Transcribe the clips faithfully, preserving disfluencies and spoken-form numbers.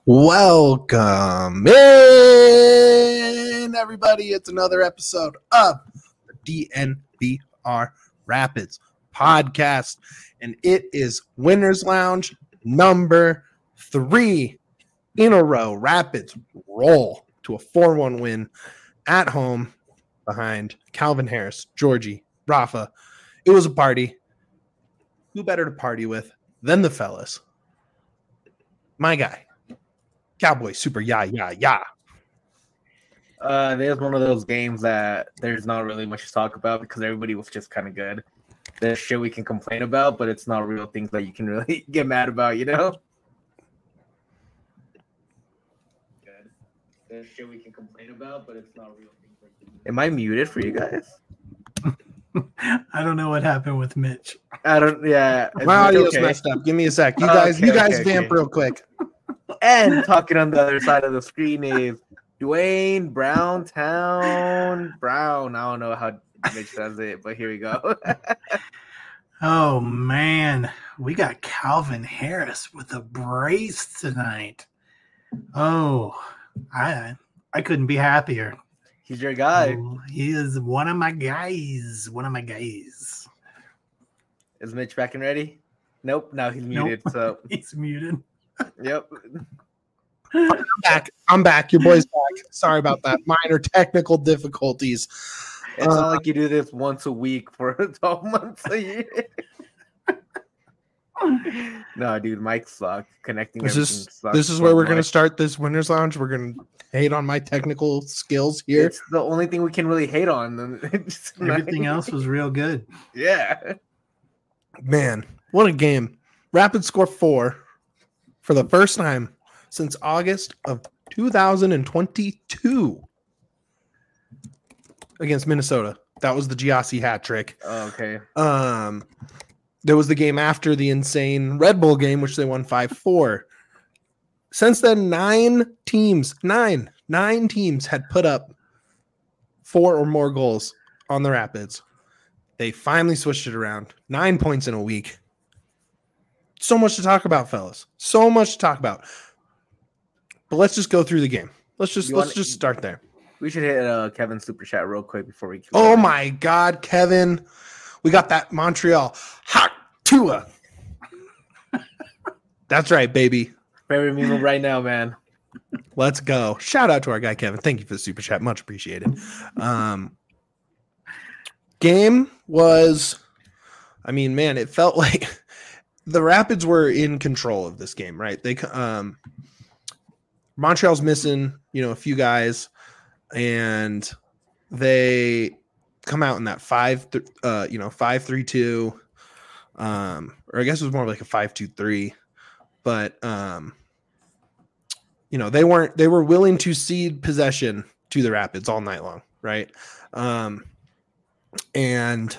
Welcome in, everybody. It's another episode of the D N V R Rapids podcast, and it is Winners Lounge number three in a row. Rapids roll to a four one win at home behind Calvin Harris, Georgie, Rafa. It was a party. Who better to party with than the fellas? My guy. Cowboy Super Yeah Yeah Yeah. Uh, there's one of those games that there's not really much to talk about because everybody was just kind of good. There's shit we can complain about, but it's not real things that you can really get mad about, you know? Good. There's shit we can complain about, but it's not real things. That you can... Am I muted for you guys? I don't know what happened with Mitch. I don't. Yeah, my audio's okay? messed up. Give me a sec. You guys, okay, you guys okay, vamp okay. real quick. And talking on the other side of the screen is Dwayne Browntown Brown. I don't know how Mitch says it, but here we go. Oh man, we got Calvin Harris with a brace tonight. Oh, I I couldn't be happier. He's your guy. Oh, he is one of my guys. One of my guys. Is Mitch back and ready? Nope. Now he's muted. Nope. So he's muted. Yep. I'm back. I'm back. Your boy's back. Sorry about that. Minor technical difficulties. It's uh, not like you do this once a week for twelve months a year. No, dude, Mike sucked. Connecting this everything is sucks this is so where we're much. gonna start this Winners Lounge. We're gonna hate on my technical skills here. It's the only thing we can really hate on. Everything else was real good. Yeah. Man, what a game. Rapids score four for the first time since August of two thousand twenty-two against Minnesota. That was the Giassi hat trick. Oh, okay. Um, there was the game after the insane Red Bull game, which they won five four. Since then, nine teams, nine, nine teams had put up four or more goals on the Rapids. They finally switched it around. Nine points in a week. So much to talk about, fellas. So much to talk about. But let's just go through the game. Let's just You let's wanna, just start there. We should hit uh, Kevin's super chat real quick before we. Oh my God, Kevin! We got that Montreal hot Tua. That's right, baby. Favorite meme right now, man. Let's go! Shout out to our guy Kevin. Thank you for the super chat. Much appreciated. Um, game was, I mean, man, it felt like the Rapids were in control of this game, right? They um. Montreal's missing, you know, a few guys, and they come out in that five, th- uh, you know, five three two, um, or I guess it was more like a five two three, but um, you know, they weren't they were willing to cede possession to the Rapids all night long, right? Um, and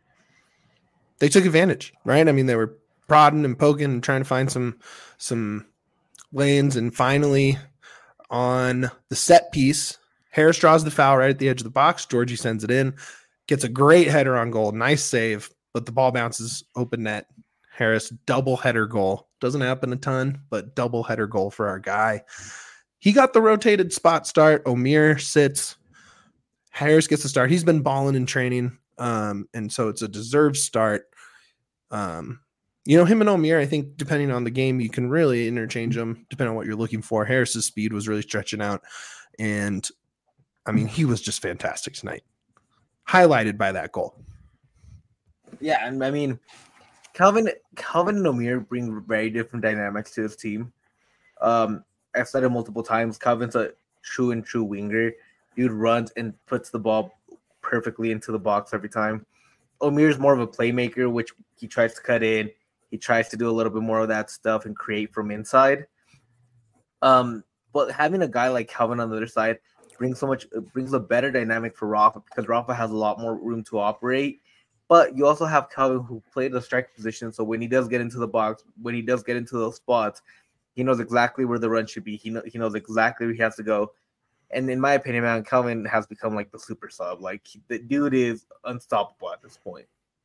they took advantage, right? I mean, they were prodding and poking and trying to find some some. lanes, and finally on the set piece, Harris draws the foul right at the edge of the box. Georgie sends it in, gets a great header on goal. Nice save, but the ball bounces open net. Harris double header goal. Doesn't happen a ton, but double header goal for our guy. He got the rotated spot start. Omir sits. Harris gets the start. He's been balling in training, um, and so it's a deserved start. Um, You know, him and Omir, I think, depending on the game, you can really interchange them depending on what you're looking for. Harris's speed was really stretching out. And, I mean, he was just fantastic tonight. Highlighted by that goal. Yeah, and I mean, Calvin Calvin and Omir bring very different dynamics to his team. Um, I've said it multiple times. Calvin's a true and true winger. Dude runs and puts the ball perfectly into the box every time. Omir's more of a playmaker, which he tries to cut in. He tries to do a little bit more of that stuff and create from inside. Um, but having a guy like Calvin on the other side brings so much, brings a better dynamic for Rafa because Rafa has a lot more room to operate. But you also have Calvin who played the striker position, so when he does get into the box, when he does get into those spots, he knows exactly where the run should be. He know, he knows exactly where he has to go. And in my opinion, man, Calvin has become like the super sub. Like the dude is unstoppable at this point.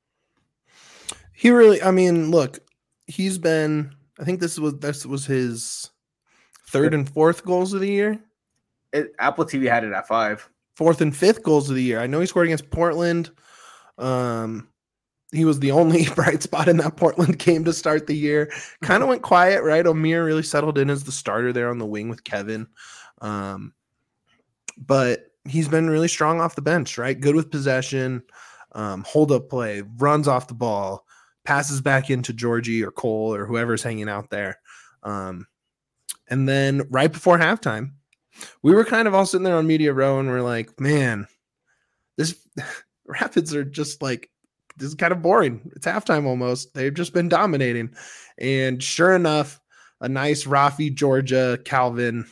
He really, I mean, look, he's been, I think this was, this was his third and fourth goals of the year. It, Apple T V had it at five. Fourth and fifth goals of the year. I know he scored against Portland. Um, he was the only bright spot in that Portland game to start the year. Kind of went quiet, right? Omier really settled in as the starter there on the wing with Kevin. Um, but he's been really strong off the bench, right? Good with possession, um, hold up play, runs off the ball, passes back into Georgie or Cole or whoever's hanging out there. Um, and then right before halftime, we were kind of all sitting there on Media Row and we're like, man, this Rapids are just like, this is kind of boring. It's halftime almost. They've just been dominating. And sure enough, a nice Rafi, Georgia, Calvin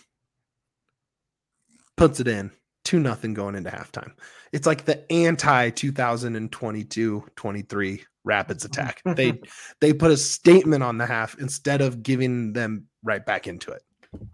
puts it in. two nothing going into halftime. It's like the anti twenty twenty-two twenty-three Rapids attack. They they put a statement on the half instead of giving them right back into it.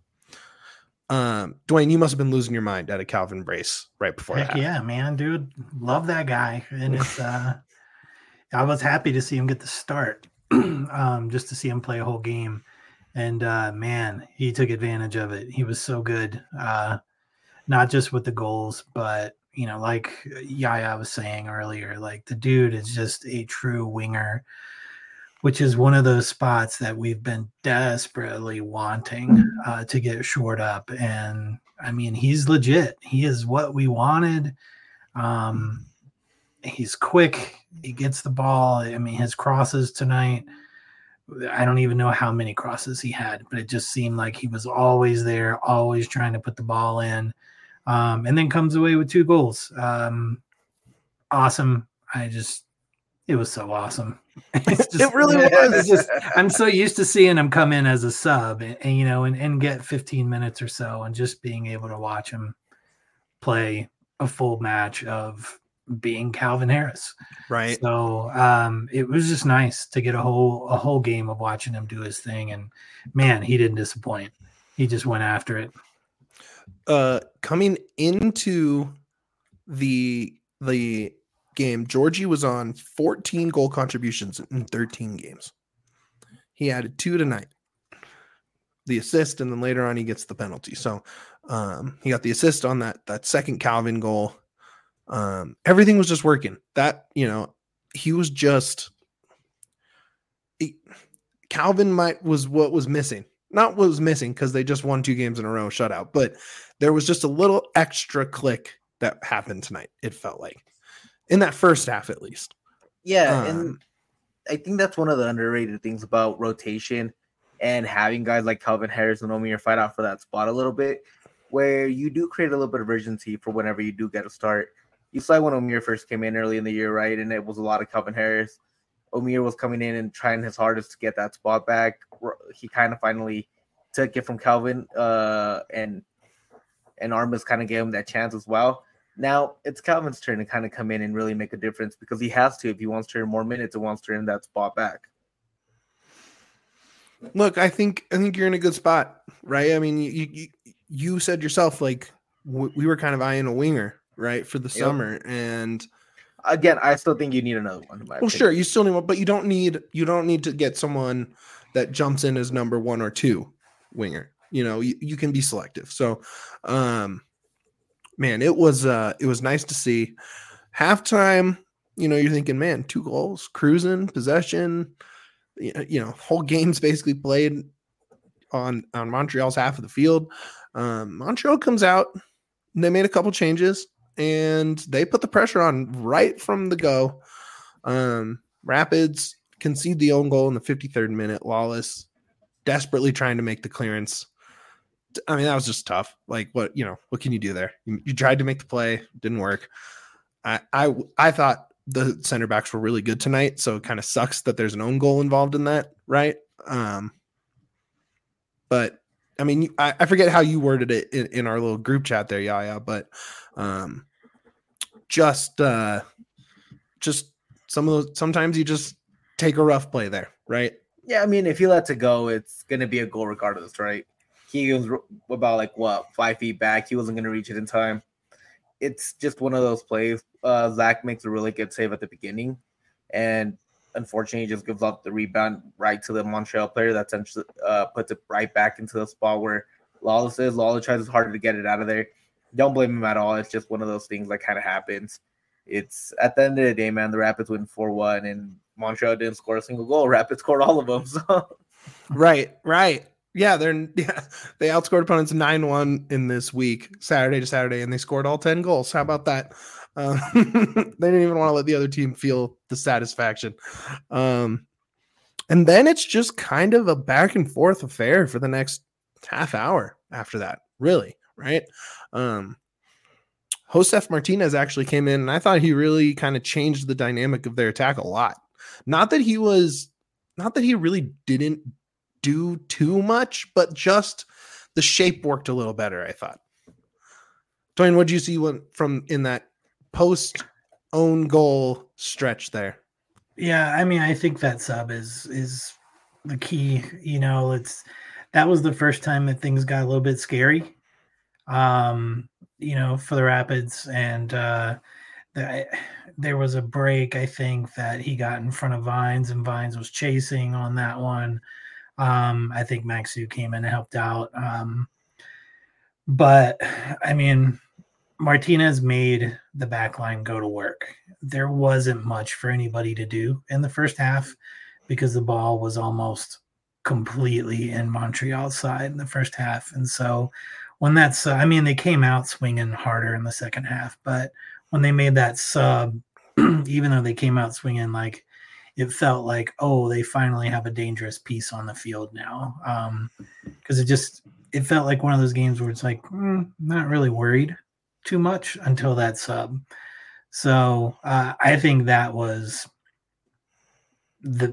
Um, Dwayne, you must have been losing your mind at a Calvin brace right before Heck that. Yeah, man, dude, love that guy, and it's. Uh, I was happy to see him get the start, um, just to see him play a whole game, and uh, man, he took advantage of it. He was so good, uh, not just with the goals, but you know, like Yaya was saying earlier, like the dude is just a true winger, which is one of those spots that we've been desperately wanting uh, to get shored up. And I mean, he's legit. He is what we wanted. Um, he's quick. He gets the ball. I mean, his crosses tonight, I don't even know how many crosses he had, but it just seemed like he was always there, always trying to put the ball in. Um, and then comes away with two goals. Um, awesome. I just, it was so awesome. It's just, It really was. was. It's just, I'm so used to seeing him come in as a sub and, and you know, and, and get fifteen minutes or so, and just being able to watch him play a full match of being Calvin Harris. Right. So um, it was just nice to get a whole a whole game of watching him do his thing, and man, he didn't disappoint. He just went after it. Uh, coming into the the game, Georgie was on fourteen goal contributions in thirteen games. He added two tonight, the assist, and then later on he gets the penalty. So um, he got the assist on that that second Calvin goal. Um, everything was just working. That, you know, he was just he, Calvin might was what was missing. Not what was missing because they just won two games in a row shutout, but there was just a little extra click that happened tonight. It felt like in that first half, at least. Yeah, Um, and I think that's one of the underrated things about rotation and having guys like Calvin Harris and Omier fight out for that spot a little bit, where you do create a little bit of urgency for whenever you do get a start. You saw when Omier first came in early in the year, right? And it was a lot of Calvin Harris. Omier was coming in and trying his hardest to get that spot back. He kind of finally took it from Calvin, uh, and and Armas kind of gave him that chance as well. Now it's Calvin's turn to kind of come in and really make a difference, because he has to if he wants to earn more minutes and wants to earn that spot back. Look, I think I think you're in a good spot, right? I mean, you you, you said yourself, like w- we were kind of eyeing a winger, right, for the Yep. summer, and Again, I still think you need another one. in my well, opinion. sure, you still need one, but you don't need you don't need to get someone that jumps in as number one or two winger. You know, you, you can be selective. So, um, man, it was uh, it was nice to see. Halftime, you know, you're thinking, man, two goals, cruising, possession. You you know, whole game's basically played on on Montreal's half of the field. Um, Montreal comes out, and they made a couple changes, and they put the pressure on right from the go. Um, Rapids concede the own goal in the fifty-third minute. Lawless desperately trying to make the clearance. I mean, that was just tough. Like, what, you know, what can you do there? You, you tried to make the play, didn't work. I, I, I thought the center backs were really good tonight, so it kind of sucks that there's an own goal involved in that, right? Um, but I mean, I, I forget how you worded it in, in our little group chat there, Yaya, but um, just, uh, just some of those, sometimes you just take a rough play there, right? Yeah, I mean, if he lets it go, it's going to be a goal regardless, right? He was about, like, what, five feet back. He wasn't going to reach it in time. It's just one of those plays. Uh, Zach makes a really good save at the beginning, and unfortunately, he just gives up the rebound right to the Montreal player. That essentially uh, puts it right back into the spot where Lawless is. Lawless tries harder to get it out of there. Don't blame him at all. It's just one of those things that kind of happens. It's at the end of the day, man, the Rapids win four one, and Montreal didn't score a single goal. Rapids scored all of them. So. Right, right. Yeah, they're yeah, they outscored opponents nine one in this week, Saturday to Saturday, and they scored all ten goals. How about that? Uh, they didn't even want to let the other team feel the satisfaction. Um, and then it's just kind of a back and forth affair for the next half hour after that, really, right? Um, Josef Martinez actually came in, and I thought he really kind of changed the dynamic of their attack a lot. Not that he was, not that he really didn't do too much, but just the shape worked a little better, I thought. Dwayne, what did you see when, from in that post own goal stretch there? Yeah, I mean, I think that sub is is the key. You know, it's that was the first time that things got a little bit scary. Um, you know, for the Rapids, and uh, the, there was a break. I think that he got in front of Vines, and Vines was chasing on that one. Um, I think Maxu came in and helped out. Um, but I mean, Martinez made the back line go to work. There wasn't much for anybody to do in the first half because the ball was almost completely in Montreal's side in the first half. And so when that's, uh, I mean, they came out swinging harder in the second half, but when they made that sub, even though they came out swinging, like, it felt like, oh, they finally have a dangerous piece on the field now. Um, because it just, it felt like one of those games where it's like, mm, not really worried too much until that sub. So uh, I think that was the,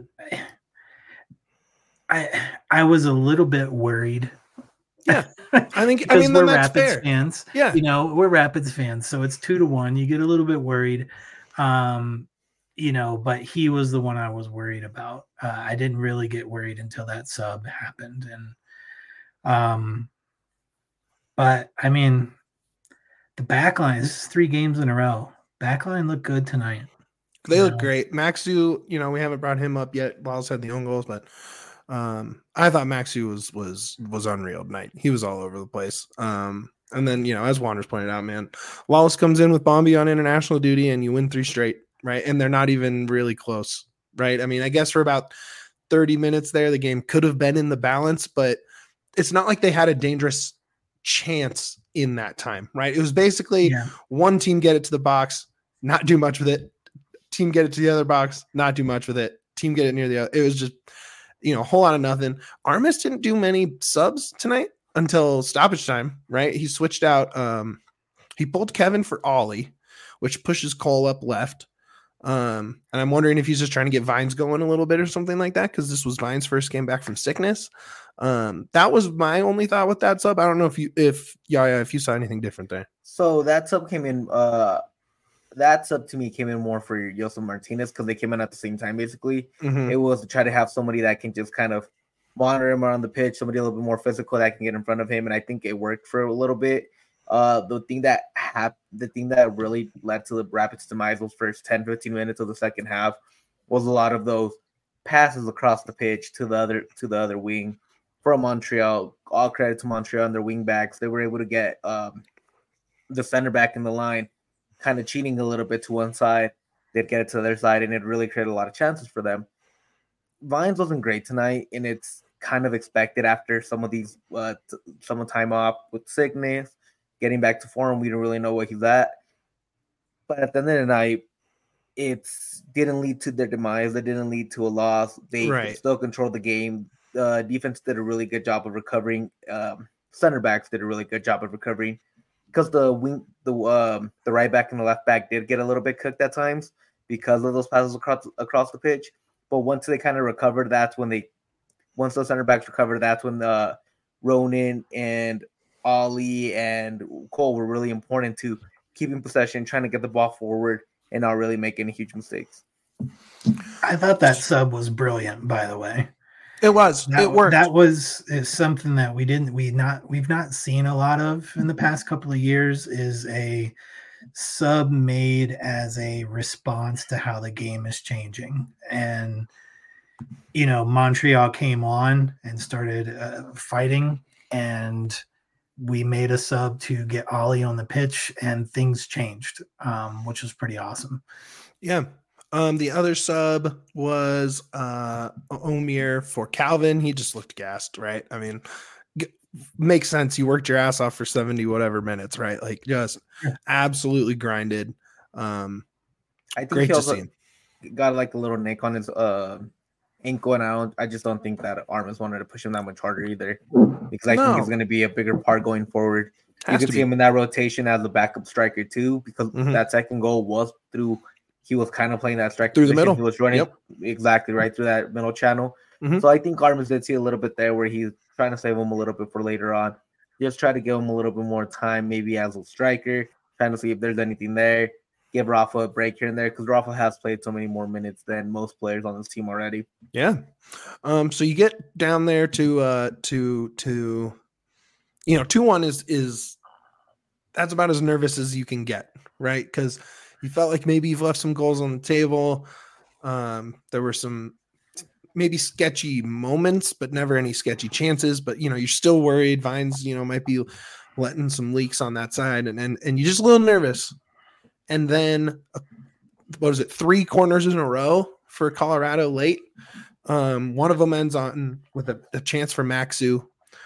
I, I was a little bit worried. Yeah. I think, I mean, we're that's Rapids fair. fans. Yeah. You know, we're Rapids fans. So it's two to one. You get a little bit worried. Um, you know, but he was the one I was worried about. Uh, I didn't really get worried until that sub happened. And, um, but I mean, the back line, this is three games in a row. Backline looked good tonight. They look great. Maxu, you know, we haven't brought him up yet. Lawless had the own goals, but um, I thought Maxu was was was unreal tonight. He was all over the place. Um, and then, you know, as Wanders pointed out, man, Lawless comes in with Bombi on international duty, and you win three straight, right? And they're not even really close, right? I mean, I guess for about thirty minutes there, the game could have been in the balance, but it's not like they had a dangerous chance in that time, right? It was basically yeah. one team get it to the box, not do much with it. Team get it to the other box, not do much with it. Team get it near the other. It was just, you know, a whole lot of nothing. Armas didn't do many subs tonight until stoppage time, right? He switched out. Um, he pulled Kevin for Ollie, which pushes Cole up left. Um, and I'm wondering if he's just trying to get Vines going a little bit or something like that, because this was Vines' first game back from sickness. Um, that was my only thought with that sub. I don't know if you, if Yaya, if you saw anything different there. So that sub came in. Uh, that sub to me came in more for Josef Martinez because they came in at the same time. Basically, mm-hmm. It was to try to have somebody that can just kind of monitor him around the pitch, somebody a little bit more physical that can get in front of him, and I think it worked for a little bit. Uh, the thing that hap- the thing that really led to the Rapids' demise those first ten, fifteen minutes of the second half was a lot of those passes across the pitch to the other to the other wing from Montreal. All credit to Montreal and their wing backs. They were able to get um, the center back in the line kind of cheating a little bit to one side. They'd get it to the other side, and it really created a lot of chances for them. Vines wasn't great tonight, and it's kind of expected after some of these uh, t- some time off with sickness. Getting back to form, we don't really know what he's at. But at the end of the night, it didn't lead to their demise. It didn't lead to a loss. They right. still controlled the game. The uh, defense did a really good job of recovering. Um, center backs did a really good job of recovering because the wing, the um, the right back and the left back did get a little bit cooked at times because of those passes across across the pitch. But once they kind of recovered, that's when they once those center backs recovered, that's when the Ronan and Ollie and Cole were really important to keeping possession, trying to get the ball forward, and not really make any huge mistakes. I thought that sub was brilliant, by the way. It was. That, it worked. That was is something that we didn't we not we've not seen a lot of in the past couple of years. Is a sub made as a response to how the game is changing, and you know Montreal came on and started uh, fighting and. we made a sub to get Ollie on the pitch, and things changed, um, which was pretty awesome. Yeah. Um, the other sub was uh, Omir for Calvin. He just looked gassed, right? I mean, g- makes sense. You worked your ass off for seventy whatever minutes, right? Like just absolutely grinded. Um, I think great he to also see him. got like a little nick on his uh, ankle, and I don't. I just don't think that Armas wanted to push him that much harder either, because I No. think he's going to be a bigger part going forward. Has you to can see be. him in that rotation as a backup striker too, because Mhm. that second goal was through. He was kind of playing that striker Through the position. middle. He was running Yep. exactly right through that middle channel. Mhm. So I think Armas did see a little bit there where he's trying to save him a little bit for later on. Just try to give him a little bit more time, maybe as a striker, trying to see if there's anything there. Give Rafa a break here and there, because Rafa has played so many more minutes than most players on this team already. Yeah. Um, so you get down there to uh to to you know, two one is is that's about as nervous as you can get, right? Because you felt like maybe you've left some goals on the table. Um, there were some maybe sketchy moments, but never any sketchy chances. But you know, you're still worried. Vines, you know, might be letting some leaks on that side, and and and you're just a little nervous. And then uh, what is it? Three corners in a row for Colorado late. Um, one of them ends on with a, a chance for Maxu,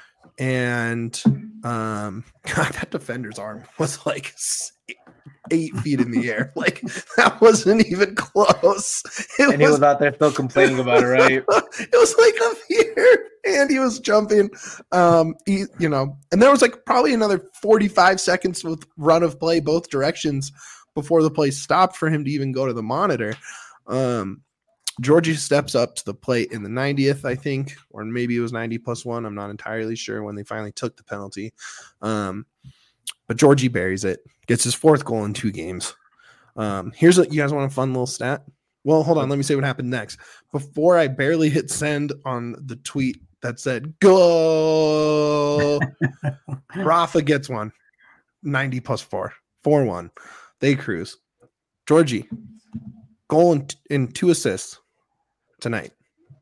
and um, God, that defender's arm was like eight feet in the air. Like that wasn't even close. It And he was out there still complaining about it, right? It was like up here, and he was jumping. Um, he, you know, and there was like probably another forty-five seconds with run of play both directions before the play stopped for him to even go to the monitor. Um, Georgie steps up to the plate in the ninetieth, I think, or maybe it was ninety plus one. I'm not entirely sure when they finally took the penalty. Um, but Georgie buries it, gets his fourth goal in two games. Um, here's what you guys want a fun little stat. Well, hold on. Let me say what happened next. Before I barely hit send on the tweet that said, go, Rafa gets one. ninety plus four. four one. They cruise. Georgie, goal and, and two assists tonight.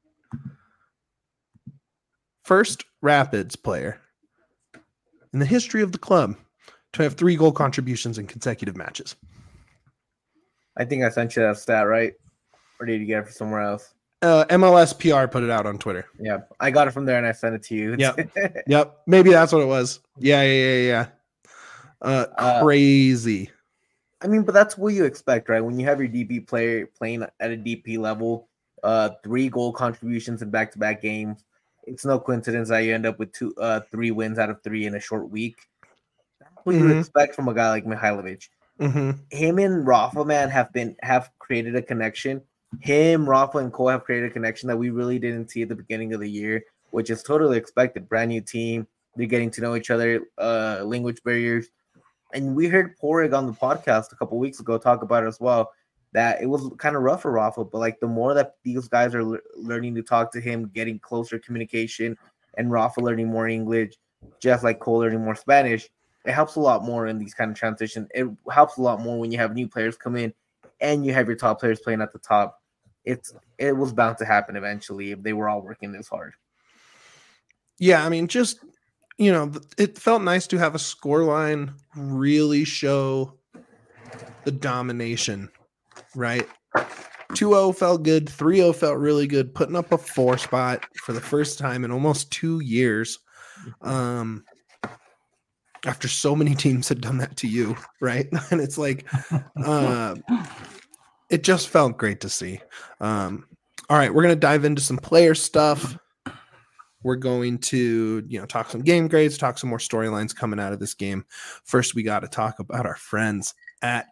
First Rapids player in the history of the club to have three goal contributions in consecutive matches. I think I sent you that stat, right? Or did you get it from somewhere else? Uh, M L S P R put it out on Twitter. Yeah, I got it from there and I sent it to you. Yep. Yep. Maybe that's what it was. Yeah, yeah, yeah, yeah. Uh, Uh, crazy. I mean, but that's what you expect, right? When you have your D P player playing at a D P level, uh, three goal contributions in back-to-back games. It's no coincidence that you end up with two, uh, three wins out of three in a short week. That's what Mhm. you expect from a guy like Mihailovic. Mm-hmm. Him and Rafa, man, have been have created a connection. Him, Rafa, and Cole have created a connection that we really didn't see at the beginning of the year, which is totally expected. Brand new team, they're getting to know each other, uh, language barriers. And we heard Porig on the podcast a couple weeks ago talk about it as well, that it was kind of rough for Rafa, but like the more that these guys are le- learning to talk to him, getting closer communication, and Rafa learning more English, just like Cole learning more Spanish, it helps a lot more in these kind of transitions. It helps a lot more when you have new players come in and you have your top players playing at the top. It's it was bound to happen eventually if they were all working this hard. Yeah, I mean, just, you know, it felt nice to have a scoreline really show the domination, right? two oh felt good. three oh felt really good. Putting up a four spot for the first time in almost two years. Um, after so many teams had done that to you, right? And it's like, uh, it just felt great to see. Um, all right, we're going to dive into some player stuff. We're going to, you know, talk some game grades, talk some more storylines coming out of this game. First, we got to talk about our friends at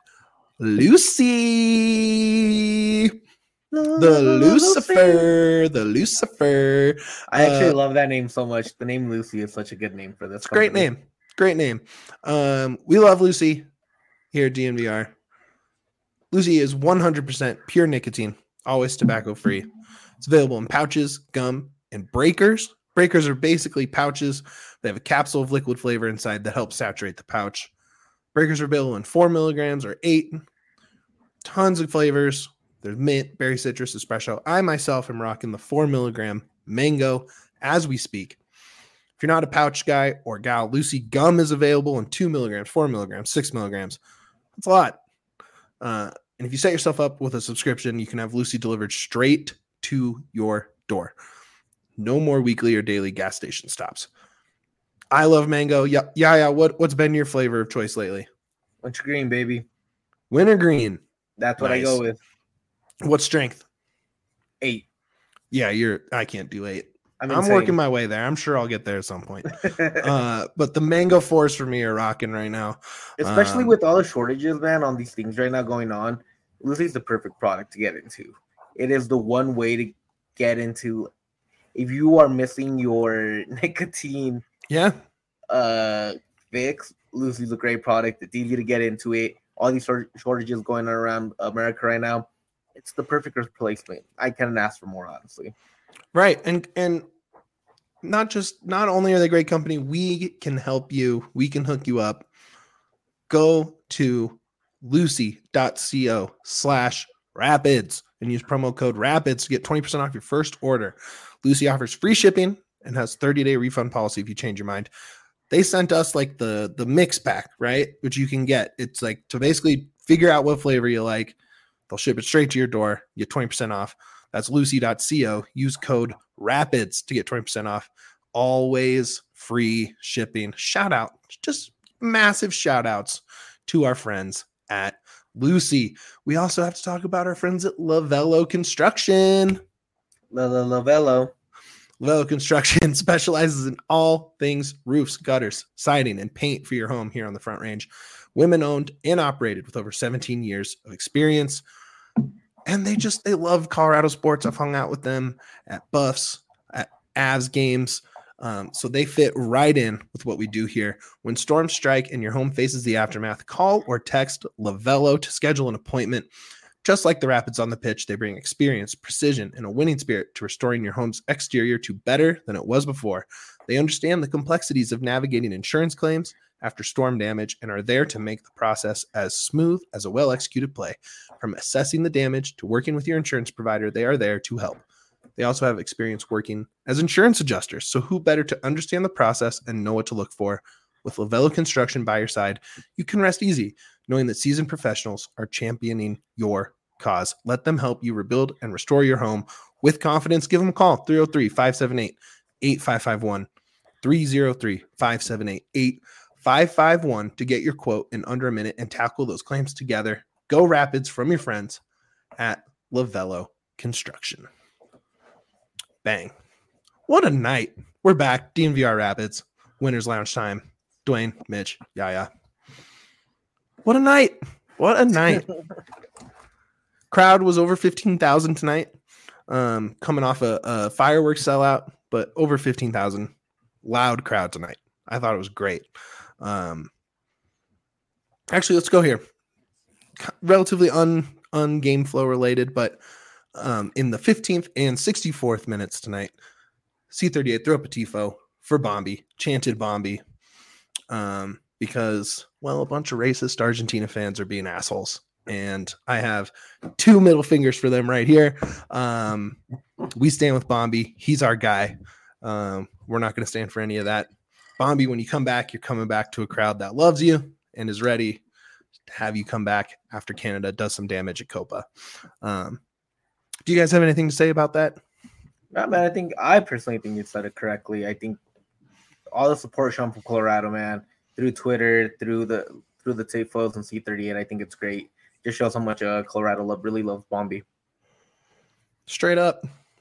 Lucy. The Lucifer, the Lucifer. I actually Uh, love that name so much. The name Lucy is such a good name for this. It's a great company. name. Great name. Um, we love Lucy here at D N V R. Lucy is one hundred percent pure nicotine, always tobacco free. It's available in pouches, gum, and breakers. Breakers are basically pouches. They have a capsule of liquid flavor inside that helps saturate the pouch. Breakers are available in four milligrams or eight. Tons of flavors. There's mint, berry citrus, espresso. I myself am rocking the four milligram mango as we speak. If you're not a pouch guy or gal, Lucy gum is available in two milligrams, four milligrams, six milligrams. That's a lot. Uh, and if you set yourself up with a subscription, you can have Lucy delivered straight to your door. No more weekly or daily gas station stops. I love mango. Yeah, yeah, yeah. What, what's been your flavor of choice lately? Wintergreen, baby. Wintergreen. That's what Nice. I go with. What strength? Eight. Yeah, you're. I can't do eight. I'm, I'm working my way there. I'm sure I'll get there at some point. uh, but the mango fours for me are rocking right now. Especially um, with all the shortages, man, on these things right now going on. Lucy's the perfect product to get into. It is the one way to get into. If you are missing your nicotine Yeah. uh, fix, Lucy's a great product. It's easy to get into it. All these short- shortages going on around America right now. It's the perfect replacement. I couldn't ask for more, honestly. Right. And and not just not only are they great company, we can help you. We can hook you up. Go to lucy.co slash rapids and use promo code rapids to get twenty percent off your first order. Lucy offers free shipping and has thirty-day refund policy if you change your mind. They sent us like the the mix pack, right? Which you can get. It's like to basically figure out what flavor you like. They'll ship it straight to your door. You get twenty percent off. That's lucy.co. Use code RAPIDS to get twenty percent off. Always free shipping. Shout out. Just massive shout outs to our friends at Lucy. We also have to talk about our friends at Lavello Construction. La la Lavello. Lavello Construction specializes in all things roofs, gutters, siding, and paint for your home here on the Front Range. Women owned and operated with over seventeen years of experience. And they just, they love Colorado sports. I've hung out with them at Buffs, at Avs games. Um, so they fit right in with what we do here. When storms strike and your home faces the aftermath, call or text Lavello to schedule an appointment. Just like the Rapids on the pitch, they bring experience, precision, and a winning spirit to restoring your home's exterior to better than it was before. They understand the complexities of navigating insurance claims after storm damage and are there to make the process as smooth as a well-executed play. From assessing the damage to working with your insurance provider, they are there to help. They also have experience working as insurance adjusters, so who better to understand the process and know what to look for? With Lavello Construction by your side, you can rest easy knowing that seasoned professionals are championing your cause. Let them help you rebuild and restore your home with confidence. Give them a call, three oh three, five seven eight, eight five five one, three oh three, five seven eight, eight five five one to get your quote in under a minute and tackle those claims together. Go Rapids from your friends at Lavello Construction. Bang. What a night. We're back. D N V R Rapids. Winners Lounge time. Dwayne, Mitch, Yaya. What a night. What a night. Crowd was over fifteen thousand tonight. Um, coming off a, a fireworks sellout, but over fifteen thousand. Loud crowd tonight. I thought it was great. Um, actually, let's go here. Relatively un, un game flow related, but um, in the fifteenth and sixty-fourth minutes tonight, C thirty-eight threw up a tifo for Bombi, chanted Bombi, um, because, well, a bunch of racist Argentina fans are being assholes. And I have two middle fingers for them right here. Um, we stand with Bombi. He's our guy. Um, we're not going to stand for any of that. Bombi, when you come back, you're coming back to a crowd that loves you and is ready to have you come back after Canada does some damage at Copa. Um, do you guys have anything to say about that? No, man, I think I personally think you said it correctly. I think all the support shown from Colorado, man, through Twitter, through the through the Tifos and C thirty-eight, I think it's great. Just shows how much uh, Colorado love really loves Bombi. Straight up.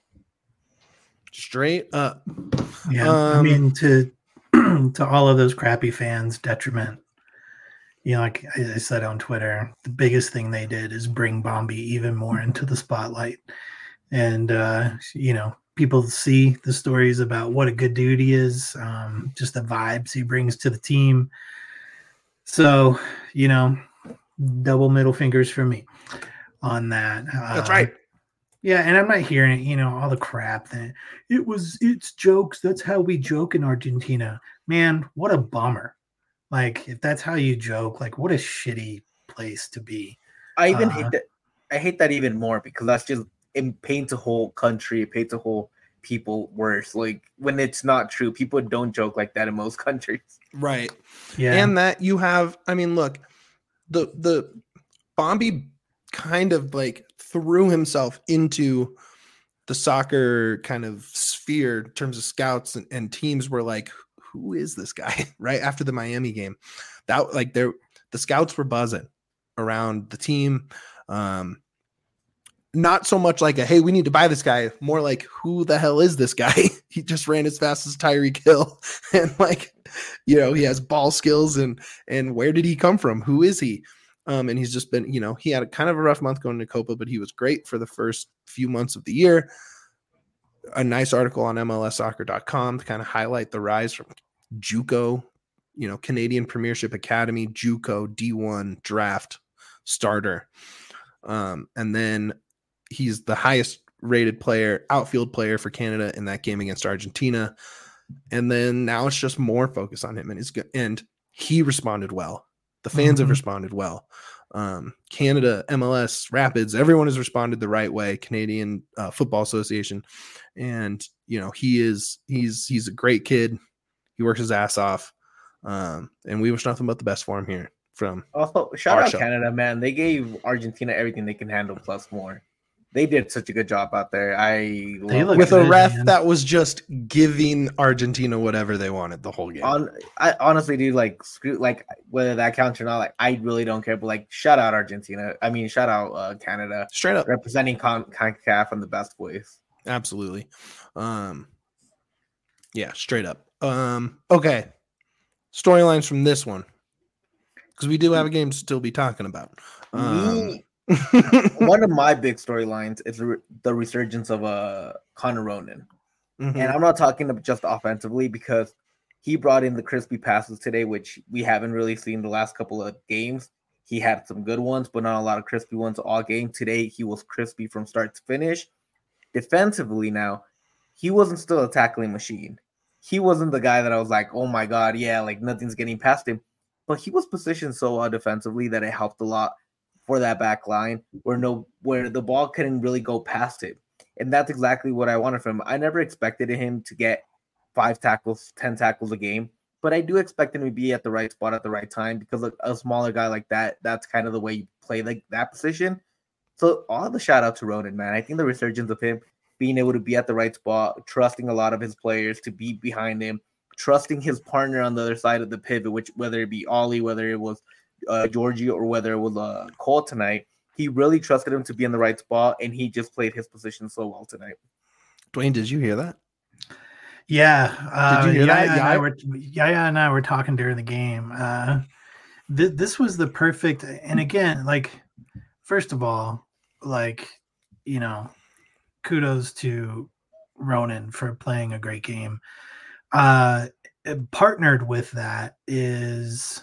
Straight up. Yeah, Um, I mean, to to all of those crappy fans' detriment. You know, like I said on Twitter, the biggest thing they did is bring Bombi even more into the spotlight. And, uh, you know, people see the stories about what a good dude he is, um, just the vibes he brings to the team. So, you know, double middle fingers for me on that. That's uh, right. Yeah, and I'm not hearing it, you know, all the crap that it was, it's jokes. That's how we joke in Argentina. Man, what a bummer. Like, if that's how you joke, like, what a shitty place to be. I even Uh, hate that. I hate that even more because that's just, it paints a whole country, it paints a whole people worse. Like when it's not true, people don't joke like that in most countries. Right. Yeah. And that you have, I mean, look, the the Bombi kind of like threw himself into the soccer kind of sphere in terms of scouts and, and teams were like, who is this guy? Right after the Miami game, that like there, the scouts were buzzing around the team. Um, not so much like a, hey, we need to buy this guy, more like, who the hell is this guy? He just ran as fast as Tyreek Hill. And like, you know, he has ball skills and, and where did he come from? Who is he? Um, and he's just been, you know, he had a kind of a rough month going to Copa, but he was great for the first few months of the year. A nice article on M L S soccer dot com to kind of highlight the rise from JUCO, you know, Canadian Premiership Academy, JUCO, D one draft starter. Um, and then he's the highest rated player, outfield player for Canada in that game against Argentina. And then now it's just more focus on him, and it's good. And he responded well. The fans mm-hmm. have responded well. Um, Canada, M L S, Rapids, everyone has responded the right way. Canadian uh, Football Association, and you know he is he's he's a great kid. He works his ass off, um, and we wish nothing but the best for him here. From also shout out show. Canada, man. They gave Argentina everything they can handle plus more. They did such a good job out there. I with a ref man. that was just giving Argentina whatever they wanted the whole game. On, I honestly, dude, like screw, like whether that counts or not, like I really don't care. But like, shout out Argentina. I mean, shout out uh, Canada, straight up representing Con- CONCACAF in the best ways. Absolutely, um, yeah, straight up. Um, okay, storylines from this one because we do have a game to still be talking about. Um, Me- One of my big storylines is the resurgence of uh, Connor Ronan. Mm-hmm. And I'm not talking just offensively because he brought in the crispy passes today, which we haven't really seen the last couple of games. He had some good ones, but not a lot of crispy ones all game. Today, he was crispy from start to finish. Defensively now, he wasn't still a tackling machine. He wasn't the guy that I was like, oh my God, yeah, like nothing's getting past him. But he was positioned so well defensively that it helped a lot for that back line where no where the ball couldn't really go past it. And that's exactly what I wanted from him. I never expected him to get five tackles, ten tackles a game, but I do expect him to be at the right spot at the right time because a, a smaller guy like that, that's kind of the way you play like that position. So all the shout out to Ronan, man. I think the resurgence of him being able to be at the right spot, trusting a lot of his players to be behind him, trusting his partner on the other side of the pivot, which whether it be Ollie, whether it was Uh, Georgie or whether it was uh, Cole tonight, he really trusted him to be in the right spot, and he just played his position so well tonight. Dwayne, did you hear that? Yeah. Uh, did you hear Yaya that? And I were, Yaya and I were talking during the game. Uh, th- this was the perfect, and again, like, first of all, like, you know, kudos to Ronan for playing a great game. Uh, partnered with that is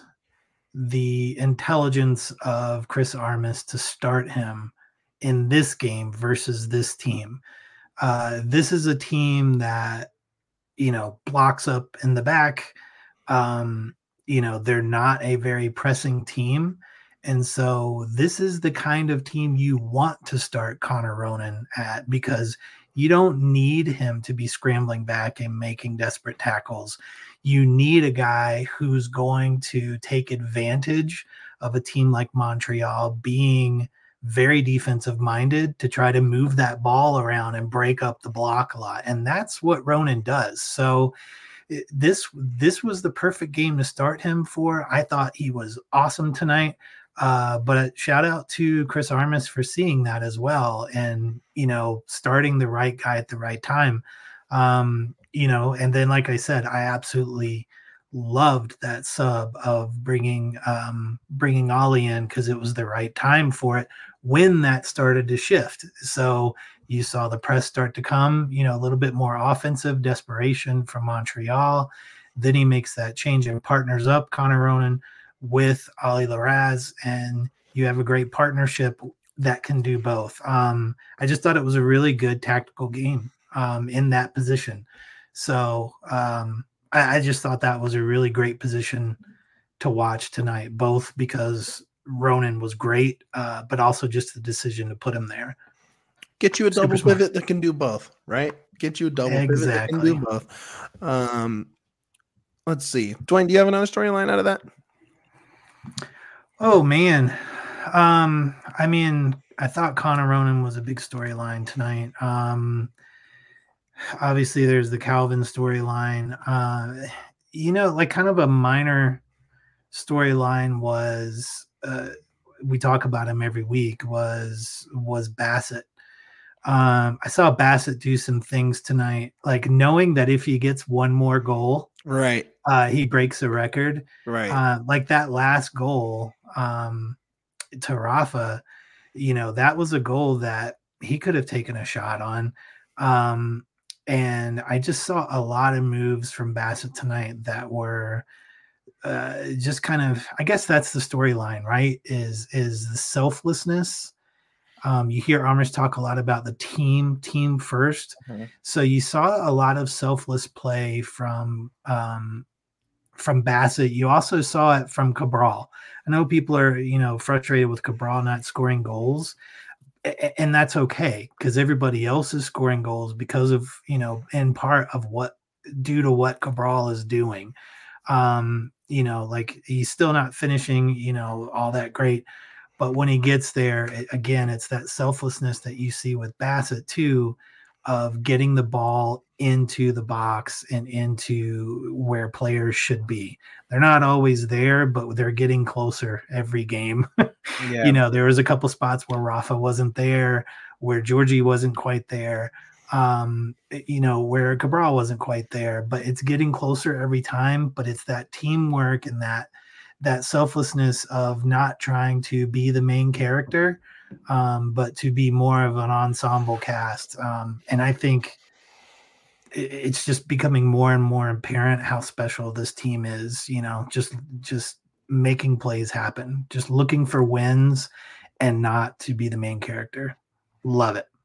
the intelligence of Chris Armas to start him in this game versus this team. Uh, this is a team that, you know, blocks up in the back. Um, you know, they're not a very pressing team. And so this is the kind of team you want to start Connor Ronan at because you don't need him to be scrambling back and making desperate tackles. You need a guy who's going to take advantage of a team like Montreal being very defensive minded to try to move that ball around and break up the block a lot. And that's what Ronan does. So it, this, this was the perfect game to start him for. I thought he was awesome tonight. Uh, but shout out to Chris Armas for seeing that as well. And, you know, starting the right guy at the right time. Um, you know, and then, like I said, I absolutely loved that sub of bringing, um, bringing Ollie in because it was the right time for it when that started to shift. So you saw the press start to come, you know, a little bit more offensive desperation from Montreal. Then he makes that change and partners up Connor Ronan with Ollie Larraz, and you have a great partnership that can do both. Um, I just thought it was a really good tactical game um, in that position. So um, I, I just thought that was a really great position to watch tonight, both because Ronan was great, uh, but also just the decision to put him there. Get you a Super double smart. pivot that can do both, right? Get you a double pivot that can Exactly. do both. Um, let's see. Dwayne, do you have another storyline out of that? Oh man. Um, I mean, I thought Connor Ronan was a big storyline tonight. Um, obviously there's the Calvin storyline. Uh, you know, like kind of a minor storyline was uh, we talk about him every week was was Bassett. Um, I saw Bassett do some things tonight, like knowing that if he gets one more goal, Right. uh, he breaks a record. Right. Uh, like that last goal um, to Rafa, you know, that was a goal that he could have taken a shot on. Um, and I just saw a lot of moves from Bassett tonight that were uh, just kind of, I guess that's the storyline, right? Is is the selflessness. Um, you hear Amish talk a lot about the team, team first. Mm-hmm. So you saw a lot of selfless play from um, from Bassett. You also saw it from Cabral. I know people are, you know, frustrated with Cabral not scoring goals, and that's okay because everybody else is scoring goals because of, you know, in part of what due to what Cabral is doing. Um, you know, like he's still not finishing, you know, all that great. But when he gets there, it, again, it's that selflessness that you see with Bassett too, of getting the ball into the box and into where players should be. They're not always there, but they're getting closer every game. Yeah. You know, there was a couple spots where Rafa wasn't there, where Georgie wasn't quite there, um, you know, where Cabral wasn't quite there, but it's getting closer every time. But it's that teamwork and that that selflessness of not trying to be the main character, um, but to be more of an ensemble cast. Um, and I think it's just becoming more and more apparent how special this team is, you know, just, just making plays happen, just looking for wins and not to be the main character. Love it.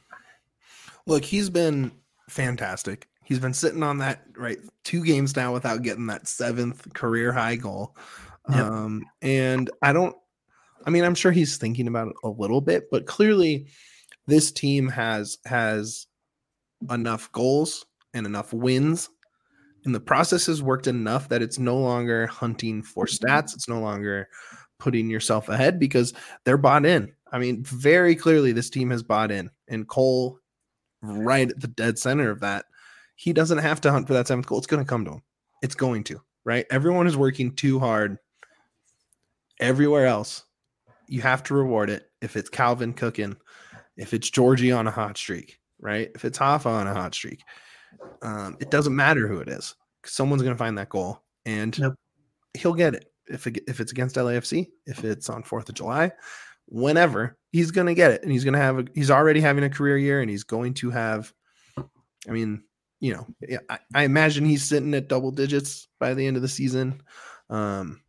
Look, he's been fantastic. He's been sitting on that, right, two games now without getting that seventh career high goal. Yep. Um, and I don't, I mean, I'm sure he's thinking about it a little bit, but clearly this team has, has enough goals and enough wins, and the process has worked enough that it's no longer hunting for stats. It's no longer putting yourself ahead because they're bought in. I mean, very clearly this team has bought in, and Cole right at the dead center of that. He doesn't have to hunt for that seventh goal. It's going to come to him. It's going to, right? Everyone is working too hard everywhere else. You have to reward it. If it's Calvin cooking, if it's Georgie on a hot streak, right? If it's Hoffa on a hot streak, um, it doesn't matter who it is. Someone's going to find that goal, and Yep. he'll get it. If it, if it's against L A F C, if it's on fourth of July, whenever, he's going to get it. And he's going to have, a, he's already having a career year, and he's going to have, I mean, you know, I, I imagine he's sitting at double digits by the end of the season. Um,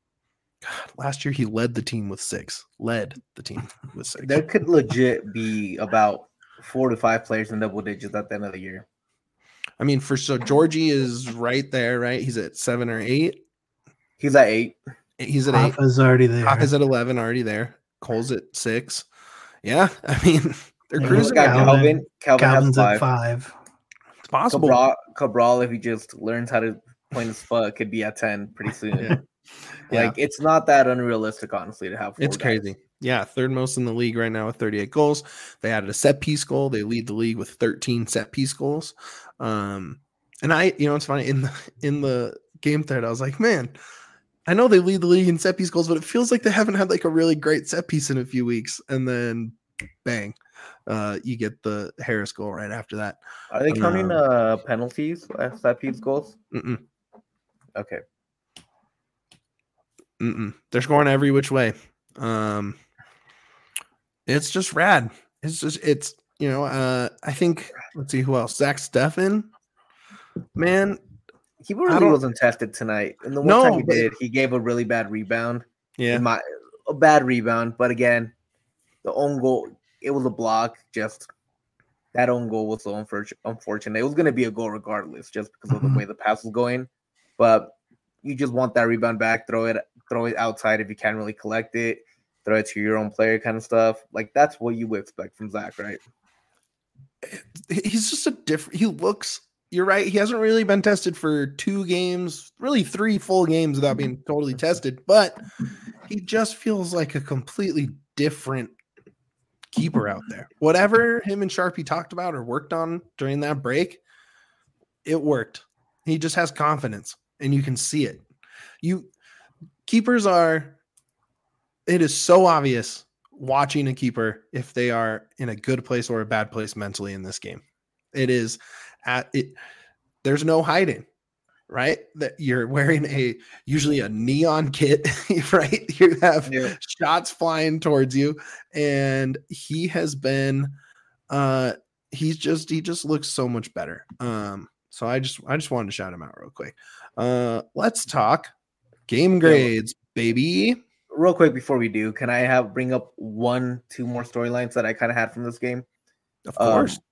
God, last year he led the team with six, led the team with six. There could legit be about four to five players in double digits at the end of the year. I mean, for so Georgie is right there, right? He's at seven or eight. He's at eight. He's at eight. Hoffa's already there. Hoffa's at eleven, already there. Cole's at six. Yeah, I mean, they're Yeah, cruising. Got Calvin. Calvin. Calvin Calvin's has at five. five. It's possible. Cabral, Cabral, if he just learns how to point his foot, could be at ten pretty soon. Yeah. Like, Yeah. it's not that unrealistic, honestly, to have four It's guys. crazy. Yeah, third most in the league right now with thirty-eight goals. They added a set piece goal. They lead the league with thirteen set piece goals. Um, and I, you know, it's funny in the in the game thread, I was like, man, I know they lead the league in set piece goals, but it feels like they haven't had like a really great set piece in a few weeks. And then, bang, uh, you get the Harris goal right after that. Are they counting Um, uh, penalties as set piece goals? Mm-mm, Okay. mm-mm. They're scoring every which way. Um, it's just rad. It's just it's you know. Uh, I think let's see who else. Zach Steffen, man. He I really don't- wasn't tested tonight. And the one No, time he but- did, he gave a really bad rebound. Yeah, In my a bad rebound, but again, the own goal, it was a block. Just that own goal was so unfor- unfortunate. It was going to be a goal regardless, just because of the Mhm. way the pass was going. But you just want that rebound back, throw it, throw it outside if you can't really collect it, throw it to your own player, kind of stuff. Like that's what you would expect from Zach, right? he's just a different. He looks. You're right. He hasn't really been tested for two games, really three full games without being totally tested, but he just feels like a completely different keeper out there. Whatever him and Sharpie talked about or worked on during that break, it worked. He just has confidence, and you can see it. You keepers are. It is so obvious watching a keeper if they are in a good place or a bad place mentally in this game. It is at it. There's no hiding, right? That you're wearing a usually a neon kit, right? You have yeah. shots flying towards you, and he has been. Uh, he's just he just looks so much better. Um, so I just I just wanted to shout him out real quick. Uh, let's talk game grades, baby. Real quick before we do, can I have bring up one, two more storylines that I kind of had from this game? Of course. Um,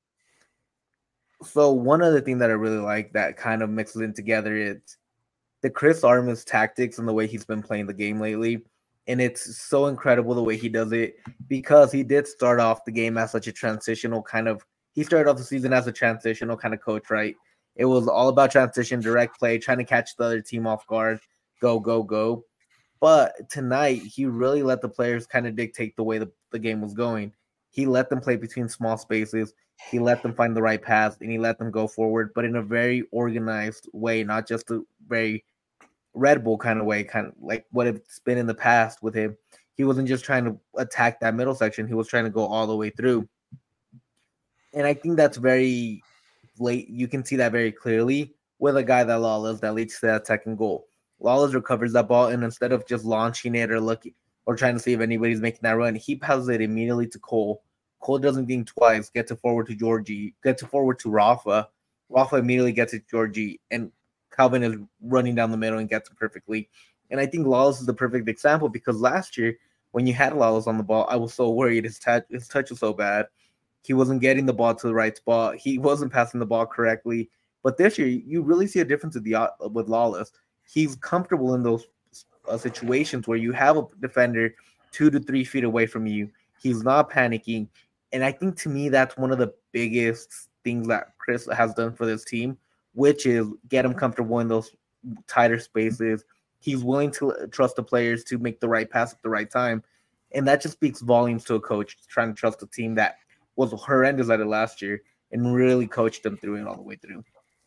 so one other thing that I really like that kind of mixes in together is the Chris Armas tactics and the way he's been playing the game lately. And it's so incredible the way he does it because he did start off the game as such a transitional kind of, he started off the season as a transitional kind of coach, right? It was all about transition, direct play, trying to catch the other team off guard, go, go, go. But tonight, he really let the players kind of dictate the way the, the game was going. He let them play between small spaces. He let them find the right path, and he let them go forward, but in a very organized way, not just a very Red Bull kind of way, kind of like what it's been in the past with him. He wasn't just trying to attack that middle section. He was trying to go all the way through. And I think that's very late. You can see that very clearly with a guy that Lawless that leads to that second goal. Lawless recovers that ball, and instead of just launching it or looking or trying to see if anybody's making that run, he passes it immediately to Cole. Cole doesn't think twice, gets it forward to Georgie, gets it forward to Rafa. Rafa immediately gets it to Georgie, and Calvin is running down the middle and gets it perfectly. And I think Lawless is the perfect example because last year, when you had Lawless on the ball, I was so worried. His, touch, his touch was so bad. He wasn't getting the ball to the right spot. He wasn't passing the ball correctly. But this year, you really see a difference with, the, with Lawless. He's comfortable in those uh, situations where you have a defender two to three feet away from you. He's not panicking. And I think to me, that's one of the biggest things that Chris has done for this team, which is get him comfortable in those tighter spaces. He's willing to trust the players to make the right pass at the right time. And that just speaks volumes to a coach trying to trust a team that was horrendous at it last year and really coached them through it all the way through.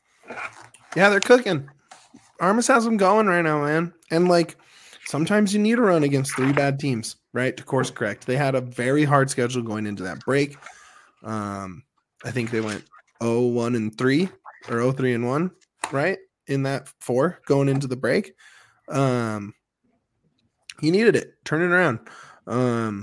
Yeah, they're cooking. Armas has them going right now, man. And, like, sometimes you need a run against three bad teams, right, to course correct. They had a very hard schedule going into that break. Um, I think they went oh one and three or oh three and one, right, in that four going into the break. Um, he needed it. Turn it around. Um,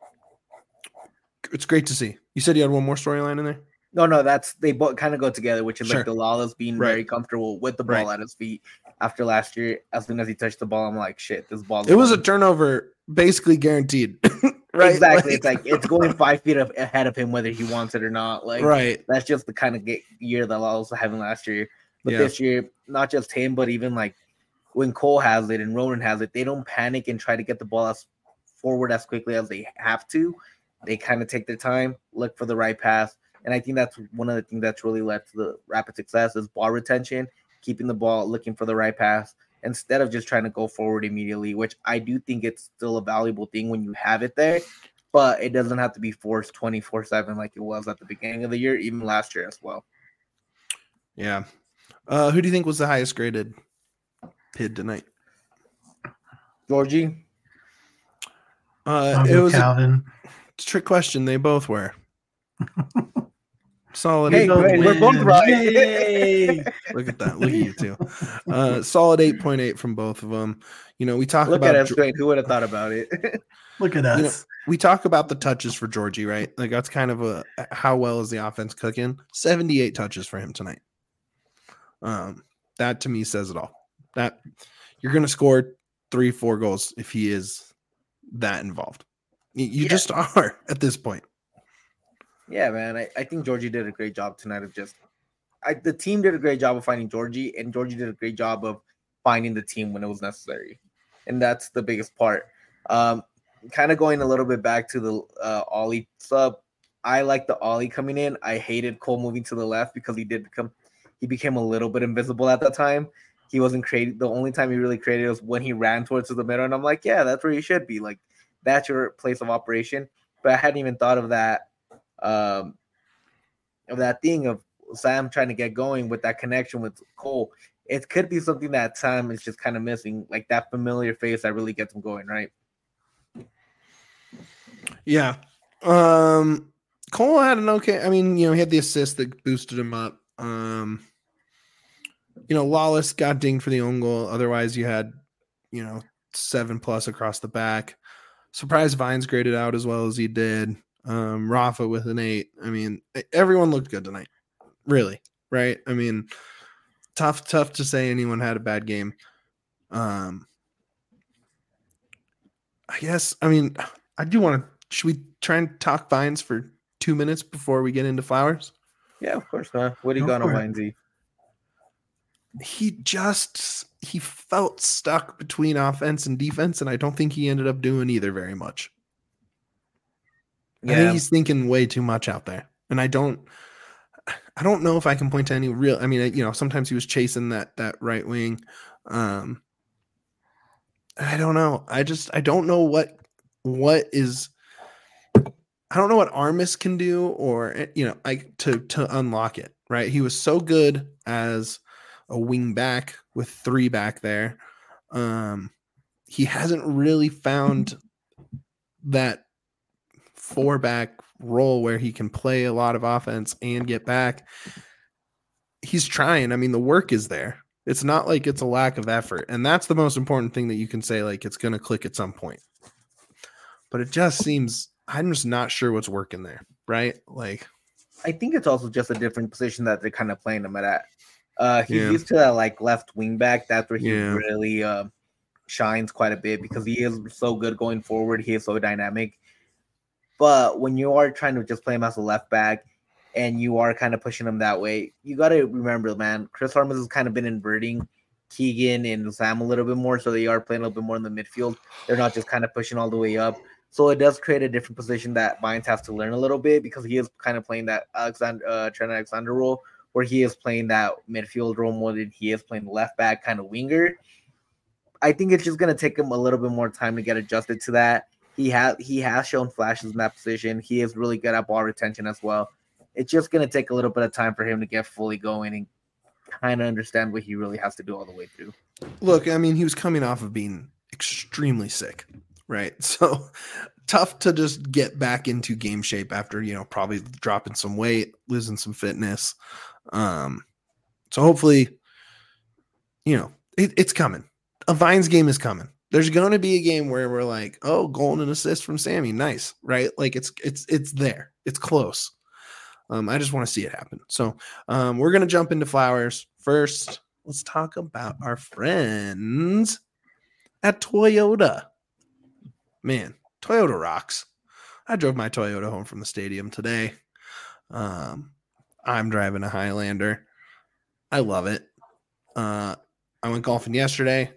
it's great to see. You said you had one more storyline in there? No, no, that's they both kind of go together, which is sure. like the Lawless being right. very comfortable with the ball right. at his feet. After last year, as soon as he touched the ball, I'm like, shit, this ball. It was a turnover, basically guaranteed. right? Exactly. Like, it's like it's going five feet ahead of him, whether he wants it or not. Like, right. That's just the kind of year that Lawless was having last year. But yeah. this year, not just him, but even like when Cole has it and Ronan has it, they don't panic and try to get the ball as forward as quickly as they have to. They kind of take their time, look for the right pass. And I think that's one of the things that's really led to the rapid success is ball retention, keeping the ball, looking for the right pass, instead of just trying to go forward immediately, which I do think it's still a valuable thing when you have it there, but it doesn't have to be forced twenty-four seven like it was at the beginning of the year, even last year as well. Yeah. Uh, who do you think was the highest graded P I D tonight? Georgie? Uh, it was Calvin. A trick question. They both were. Solid. Hey, eight. great. We're both right. Look at that. Look at you two. Uh, solid eight point eight from both of them. You know, we talk Look about. Look at us, Dwayne. Who would have thought about it? Look at us. You know, we talk about the touches for Georgie, right? Like that's kind of a how well is the offense cooking? seventy-eight touches for him tonight. Um, that to me says it all. That you're going to score three, four goals if he is that involved. You, you yeah. just are at this point. Yeah, man. I, I think Georgie did a great job tonight of just I, the team did a great job of finding Georgie, and Georgie did a great job of finding the team when it was necessary. And that's the biggest part. Um, kind of going a little bit back to the uh, Ollie sub, I like the ollie coming in. I hated Cole moving to the left because he did become he became a little bit invisible at that time. He wasn't created. The only time he really created was when he ran towards the middle, and I'm like, yeah, that's where you should be. Like that's your place of operation. But I hadn't even thought of that, um, of that thing of Sam trying to get going with that connection with Cole. It could be something that Sam is just kind of missing, like that familiar face that really gets him going, right? Yeah. Um, Cole had an okay. I mean, you know, he had the assist that boosted him up. Um, you know, Lawless got dinged for the own goal. Otherwise, you had, you know, seven plus across the back. Surprised Vines graded out as well as he did. Um, Rafa with an eight. I mean, everyone looked good tonight. Really, right? I mean, tough, tough to say anyone had a bad game. Um, I guess. I mean, I do want to. Should we try and talk Vines for two minutes before we get into Flowers? Yeah, of course, man. What do you Go got on for it. Vinesy? He just he felt stuck between offense and defense, and I don't think he ended up doing either very much. I think Yeah, he's thinking way too much out there, and I don't. I don't know if I can point to any real. I mean, you know, sometimes he was chasing that that right wing. Um, I don't know. I just I don't know what what is. I don't know what Armis can do, or you know, like to to unlock it. Right, he was so good as a wing back with three back there. Um, he hasn't really found that four back role where he can play a lot of offense and get back. He's trying. I mean, the work is there. It's not like it's a lack of effort. And that's the most important thing that you can say, like it's going to click at some point. But it just seems, I'm just not sure what's working there. Right. Like, I think it's also just a different position that they're kind of playing him at. Uh, he's Yeah. used to that like left wing back. That's where he Yeah. really uh, shines quite a bit because he is so good going forward. He is so dynamic. But when you are trying to just play him as a left back and you are kind of pushing him that way, you got to remember, man, Chris Armas has kind of been inverting Keegan and Sam a little bit more. So they are playing a little bit more in the midfield. They're not just kind of pushing all the way up. So it does create a different position that Vines has to learn a little bit because he is kind of playing that Alexander, uh, Trent Alexander role where he is playing that midfield role more than he is playing left back kind of winger. I think it's just going to take him a little bit more time to get adjusted to that. He has he has shown flashes in that position. He is really good at ball retention as well. It's just going to take a little bit of time for him to get fully going and kind of understand what he really has to do all the way through. look, I mean, he was coming off of being extremely sick, right? So tough to just get back into game shape after, you know, probably dropping some weight, losing some fitness. Um, so hopefully, you know, it, it's coming. A Vines game is coming. There's going to be a game where we're like, oh, goal and an assist from Sammy. Nice, right? Like it's it's it's there. It's close. Um, I just want to see it happen. So um, we're going to jump into Flowers. First, let's talk about our friends at Toyota. Man, Toyota rocks. I drove my Toyota home from the stadium today. Um, I'm driving a Highlander. I love it. Uh, I went golfing yesterday.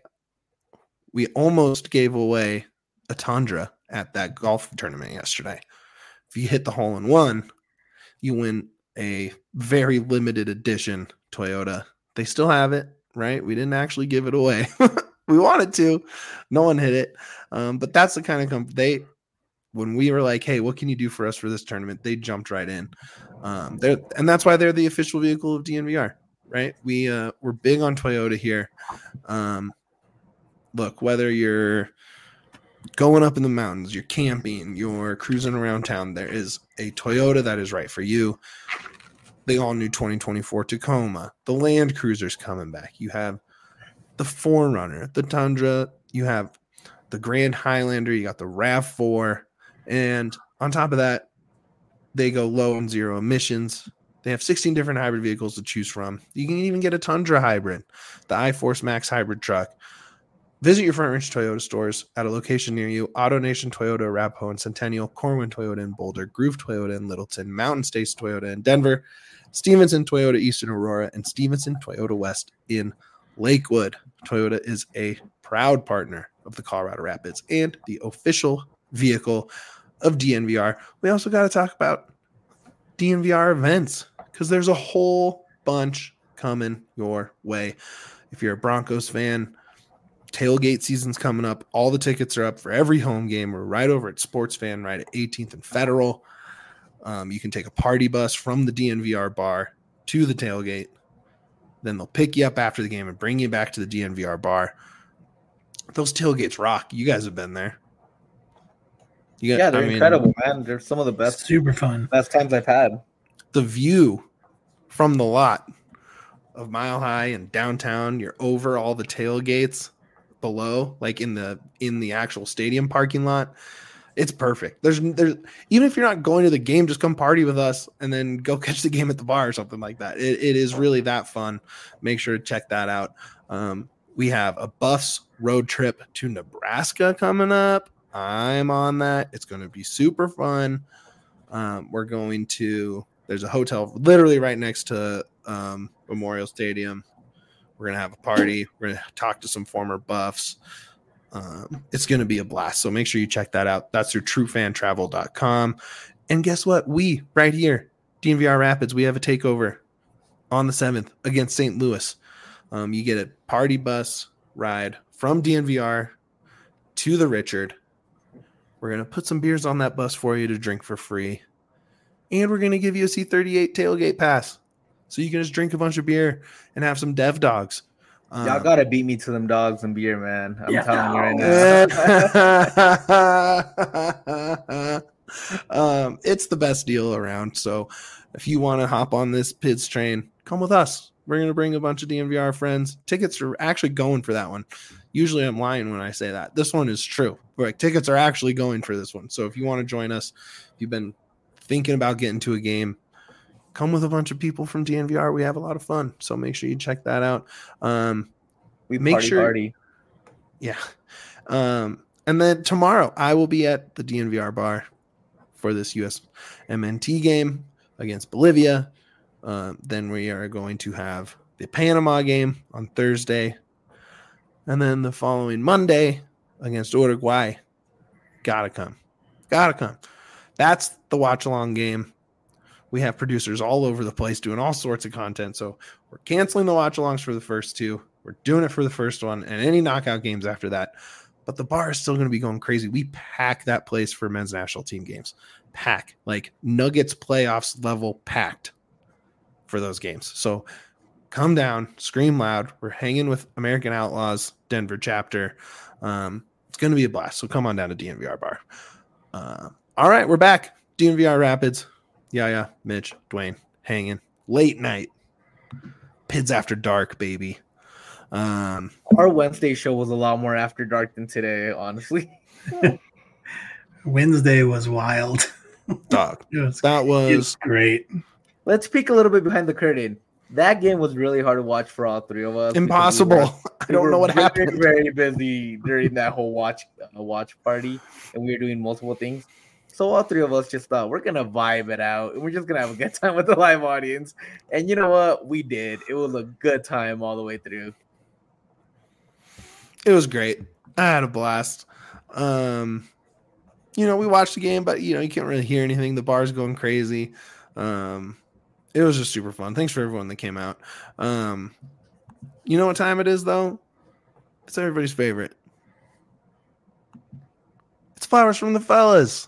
We almost gave away a Tundra at that golf tournament yesterday. If you hit the hole in one, you win a very limited edition Toyota. They still have it, right? We didn't actually give it away. We wanted to. No one hit it. Um, but that's the kind of company they, when we were like, hey, what can you do for us for this tournament? They jumped right in. Um, they're, and that's why they're the official vehicle of D N V R, right? We, uh, we're big on Toyota here. Um, Look, whether you're going up in the mountains, you're camping, you're cruising around town, there is a Toyota that is right for you. The all-new twenty twenty-four Tacoma, the Land Cruiser's coming back. You have the four runner, the Tundra, you have the Grand Highlander, you got the RAV four, and on top of that, they go low and zero emissions. They have sixteen different hybrid vehicles to choose from. You can even get a Tundra hybrid, the iForce Max hybrid truck. Visit your Front Range Toyota stores at a location near you. AutoNation Toyota, Arapahoe and Centennial, Corwin Toyota in Boulder, Groove Toyota in Littleton, Mountain States Toyota in Denver, Stevenson Toyota East in Aurora, and Stevenson Toyota West in Lakewood. Toyota is a proud partner of the Colorado Rapids and the official vehicle of D N V R. We also got to talk about D N V R events because there's a whole bunch coming your way. If you're a Broncos fan, tailgate season's coming up. All the tickets are up for every home game. We're right over at Sports Fan, right at eighteenth and Federal. Um, you can take a party bus from the D N V R bar to the tailgate. Then they'll pick you up after the game and bring you back to the D N V R bar. Those tailgates rock. You guys have been there. You got, yeah, they're I incredible, mean, man. They're some of the best, super fun, best times I've had. The view from the lot of Mile High and downtown, you're over all the tailgates below, like in the in the actual stadium parking lot. It's perfect. There's there's even if you're not going to the game, just come party with us and then go catch the game at the bar or something like that. It, it is really that fun. Make sure to check that out. Um, we have a Buffs road trip to Nebraska coming up. I'm on that. It's going to be super fun. Um, we're going to, there's a hotel literally right next to um, Memorial Stadium. We're going to have a party. We're going to talk to some former Buffs. Um, it's going to be a blast. So make sure you check that out. That's through true fan travel dot com. And guess what? We, right here, D N V R Rapids, we have a takeover on the seventh against Saint Louis. Um, you get a party bus ride from D N V R to the Richard. We're going to put some beers on that bus for you to drink for free. And we're going to give you a C thirty-eight tailgate pass. So you can just drink a bunch of beer and have some dev dogs. Um, Y'all got to beat me to them dogs and beer, man. I'm yeah, telling you right now. um, it's the best deal around. So if you want to hop on this P I D S train, come with us. We're going to bring a bunch of D N V R friends. Tickets are actually going for that one. Usually I'm lying when I say that. This one is true. Like, tickets are actually going for this one. So if you want to join us, if you've been thinking about getting to a game, come with a bunch of people from D N V R. We have a lot of fun. So make sure you check that out. Um, we make party, sure, party. Yeah. Um, and then tomorrow I will be at the D N V R bar for this U S M N T game against Bolivia. Um, then we are going to have the Panama game on Thursday. And then the following Monday against Uruguay. Gotta come. Gotta come. That's the watch-along game. We have producers all over the place doing all sorts of content. So we're canceling the watch-alongs for the first two. We're doing it for the first one and any knockout games after that. But the bar is still going to be going crazy. We pack that place for men's national team games. Pack. Like Nuggets playoffs level packed for those games. So come down, scream loud. We're hanging with American Outlaws, Denver chapter. Um, it's going to be a blast. So come on down to D N V R bar. Uh, all right, we're back. D N V R Rapids. Yeah, yeah. Mitch, Dwayne, hanging. Late night. P I D S after dark, baby. Um, Our Wednesday show was a lot more after dark than today, honestly. Wednesday was wild. Dog. was, that was, was great. Let's peek a little bit behind the curtain. That game was really hard to watch for all three of us. Impossible. We were, I don't know what very, happened. Very busy during that whole watch uh, watch party, and we were doing multiple things. So all three of us just thought we're gonna vibe it out, and we're just gonna have a good time with the live audience. And you know what? We did. It was a good time all the way through. It was great. I had a blast. Um, you know, we watched the game, but you know, you can't really hear anything. The bar's going crazy. Um, it was just super fun. Thanks for everyone that came out. Um, you know what time it is, though? It's everybody's favorite. It's Flowers from the Fellas.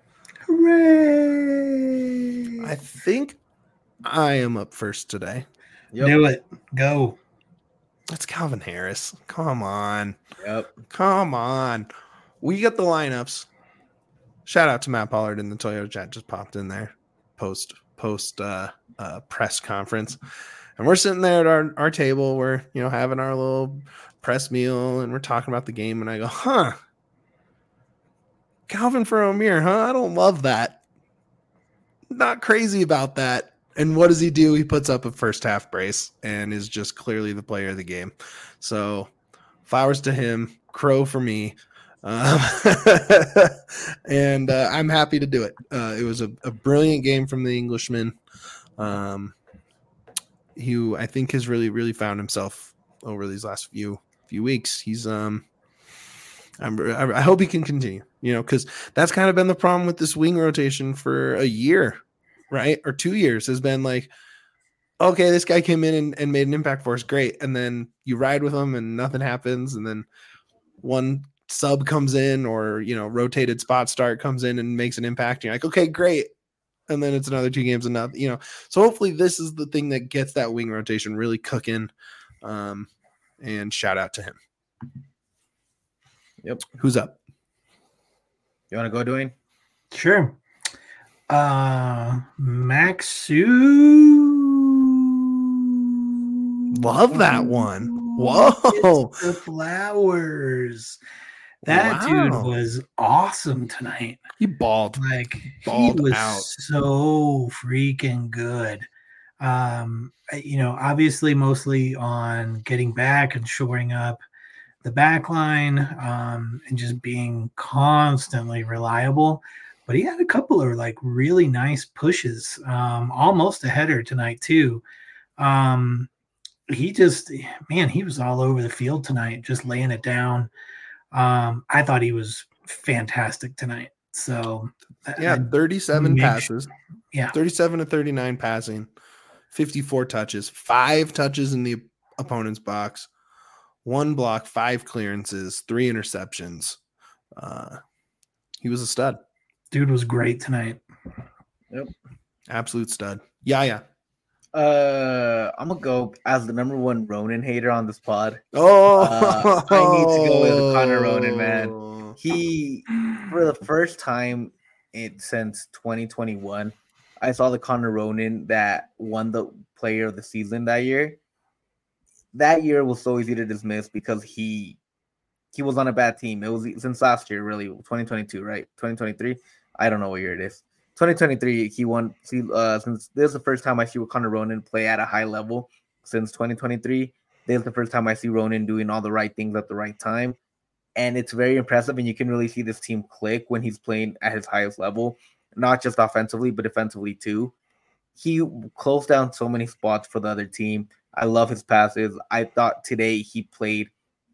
Hooray! I think I am up first today. Yep. Do it. Go. It's Calvin Harris. Come on. Yep. Come on. We get the lineups. Shout out to Matt Pollard in the Toyota chat. Just popped in there. Post post uh, uh, press conference. And we're sitting there at our, our table. We're, you know, having our little press meal and we're talking about the game. And I go, huh. Calvin for O'Meara, huh? I don't love that. Not crazy about that. And what does he do? He puts up a first half brace and is just clearly the player of the game. So flowers to him, crow for me. Um, and uh, I'm happy to do it. Uh, it was a, a brilliant game from the Englishman. Um, who I think has really, really found himself over these last few few weeks. He's um, I'm, I hope he can continue. You know, because that's kind of been the problem with this wing rotation for a year. right, or two years has been like, okay, this guy came in and, and made an impact for us, great, and then you ride with him and nothing happens, and then one sub comes in or you know rotated spot start comes in and makes an impact. And you're like, okay, great, and then it's another two games and nothing, you know. So hopefully this is the thing that gets that wing rotation really cooking. Um, and shout out to him. Yep. Who's up? You want to go, Dwayne? Sure. Uh, Maxu. Love that one. Whoa. The flowers. That Wow. dude was awesome tonight. He balled. Like Balled he was out. so freaking good. Um, you know, obviously mostly on getting back and shoring up the back line, um, and just being constantly reliable. But he had a couple of like really nice pushes, um, almost a header tonight too. Um, he just, man, he was all over the field tonight, just laying it down. Um, I thought he was fantastic tonight. So Yeah, I- thirty-seven make passes. sure- yeah, thirty-seven to thirty-nine passing, fifty-four touches, five touches in the opponent's box, one block, five clearances, three interceptions. Uh, he was a stud. dude was great tonight. Absolute stud. Yeah, yeah. Uh, I'm gonna go as the number one Ronan hater on this pod. Oh, Uh, I need to go with Connor Ronan, man. He, for the first time it since twenty twenty-one, I saw the Connor Ronan that won the Player of the Season that year. That year was so easy to dismiss because he he was on a bad team. It was since last year, really, twenty twenty-two, right? twenty twenty-three. I don't know what year it is. twenty twenty-three, he won. See, uh, since this is the first time I see Connor Ronan play at a high level since twenty twenty-three. This is the first time I see Ronan doing all the right things at the right time. And it's very impressive, and you can really see this team click when he's playing at his highest level, not just offensively, but defensively too. He closed down so many spots for the other team. I love his passes. I thought today he played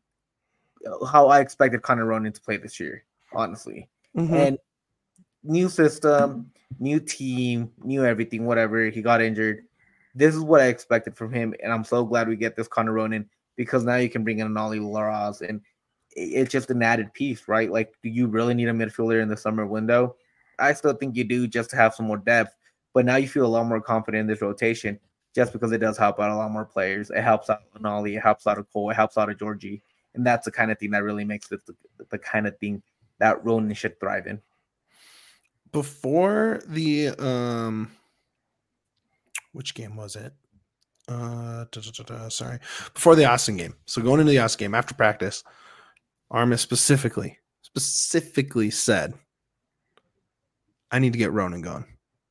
how I expected Connor Ronan to play this year, honestly. Mhm. And new system, new team, new everything, whatever. He got injured. This is what I expected from him, and I'm so glad we get this Connor Ronan because now you can bring in an Ollie Laraz, and it's just an added piece, right? Like, do you really need a midfielder in the summer window? I still think you do just to have some more depth, but now you feel a lot more confident in this rotation just because it does help out a lot more players. It helps out an Ollie, it helps out a Cole, it helps out a Georgie, and that's the kind of thing that really makes it the, the kind of thing that Ronan should thrive in. Before the um which game was it? Uh da, da, da, da, sorry. Before the Austin game. So going into the Austin game after practice, Armis specifically specifically said, I need to get Ronan going.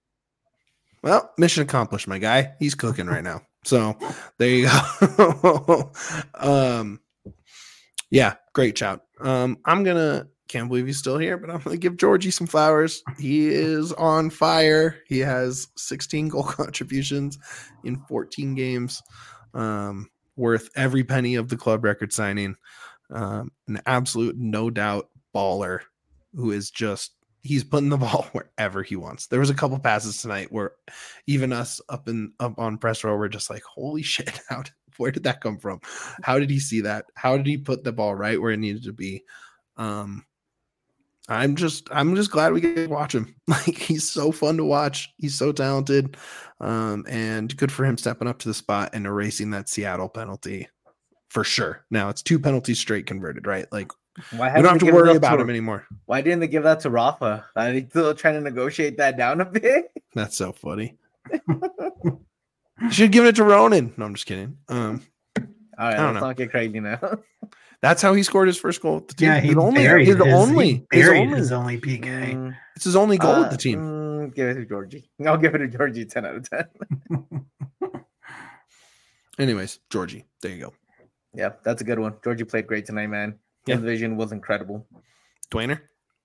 Well, mission accomplished, my guy. He's cooking right now. So there you go. um yeah, great shout. Um I'm gonna Can't believe he's still here, but I'm going to give Georgie some flowers. He is on fire. He has sixteen goal contributions in fourteen games, um, worth every penny of the club record signing. Um, an absolute, no doubt baller who is just, he's putting the ball wherever he wants. There was a couple passes tonight where even us up in up on press row were just like, holy shit, how did, where did that come from? How did he see that? How did he put the ball right where it needed to be? Um, I'm just I'm just glad we get to watch him. Like, he's so fun to watch. He's so talented. Um, and good for him stepping up to the spot and erasing that Seattle penalty for sure. Now it's two penalties straight converted, right? Like, Why we don't have to they give it worry up about to- him anymore. Why didn't they give that to Rafa? Are they still trying to negotiate that down a bit? That's so funny. Should have given it to Ronan. No, I'm just kidding. Um, All right, I don't let's know. not get crazy now. that's how he scored his first goal with the team. Yeah, he his only, buried his his, only, he his buried only, his only P K. Mm, it's his only goal uh, with the team. mm, give it to Georgie. I'll give it to Georgie ten out of ten. Anyways, Georgie, there you go. Yeah, that's a good one. Georgie played great tonight, man. Yeah. His vision was incredible. Dwayner?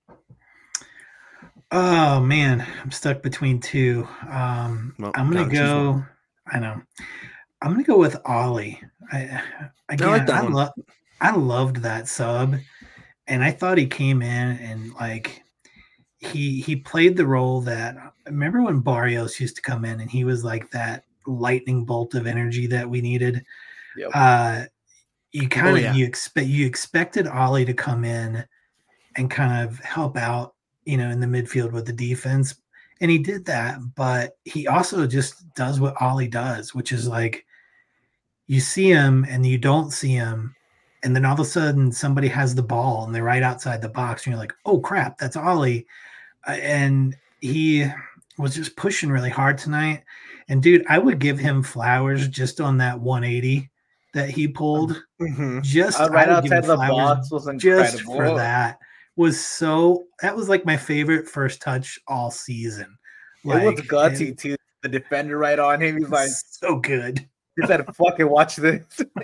Oh man, I'm stuck between two. Um, Well, I'm gonna gotta choose go. I know. I'm gonna go with Ollie. I again, like that I, one. lo- I loved that sub, and I thought he came in and like he he played the role that remember when Barrios used to come in and he was like that lightning bolt of energy that we needed. Yep. Uh, you kind Oh, of yeah. you expect you expected Ollie to come in and kind of help out, you know, in the midfield with the defense, and he did that. But he also just does what Ollie does, which is like you see him and you don't see him, and then all of a sudden somebody has the ball and they're right outside the box, and you're like, oh crap, that's Ollie. Uh, and he was just pushing really hard tonight. And dude, I would give him flowers just on that one eighty that he pulled. Mhm. Just Uh, right I would give him outside the flowers box was just for incredible. that. Was so that was like my favorite first touch all season. It was Like, gutsy it- too. The defender right on him. He's like, so good. he said, "Fucking watch this."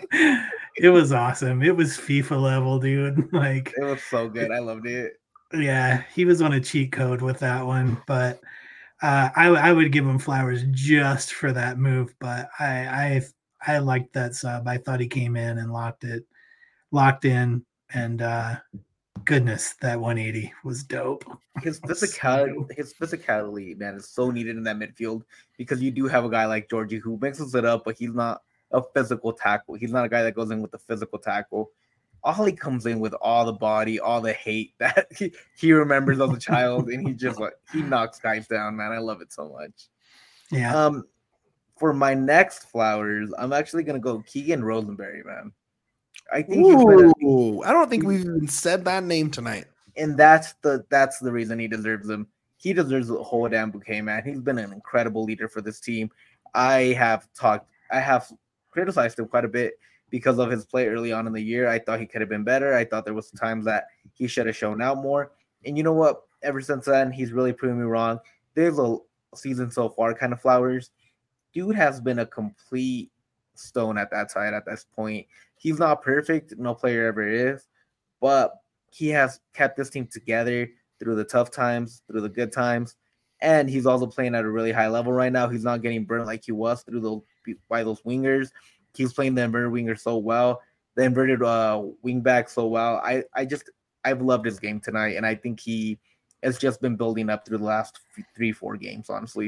It was awesome. It was FIFA level, dude. Like, It was so good. I loved it. yeah, he was on a cheat code with that one, but uh, I I would give him flowers just for that move. But I I I liked that sub. I thought he came in and locked it, locked in, and uh, goodness, that one eighty was dope. His So physicality, dope. his physicality, man, is so needed in that midfield because you do have a guy like Georgie who mixes it up, but he's not a physical tackle. He's not a guy that goes in with the physical tackle. Ollie comes in with all the body, all the hate that he, he remembers as a child, and he just like he knocks guys down, man. I love it so much. Yeah, Um, for my next flowers, I'm actually gonna go Keegan Rosenberry, man. I think he's been a, Ooh, I don't think we've even said that name tonight. and that's the that's the reason he deserves them. He deserves the whole damn bouquet, man. He's been an incredible leader for this team. I have talked, I have criticized him quite a bit because of his play early on in the year. I thought he could have been better. I thought there was times that he should have shown out more. And you know what? Ever since then, he's really proven me wrong. There's a season so far kind of flowers. Dude has been a complete stone at that side at this point. He's not perfect. No player ever is. But he has kept this team together through the tough times, through the good times. And he's also playing at a really high level right now. He's not getting burnt like he was through those by those wingers. He's playing the inverted winger so well, the inverted uh, wing back so well. I, I just I've loved his game tonight, and I think he has just been building up through the last three, four games, honestly.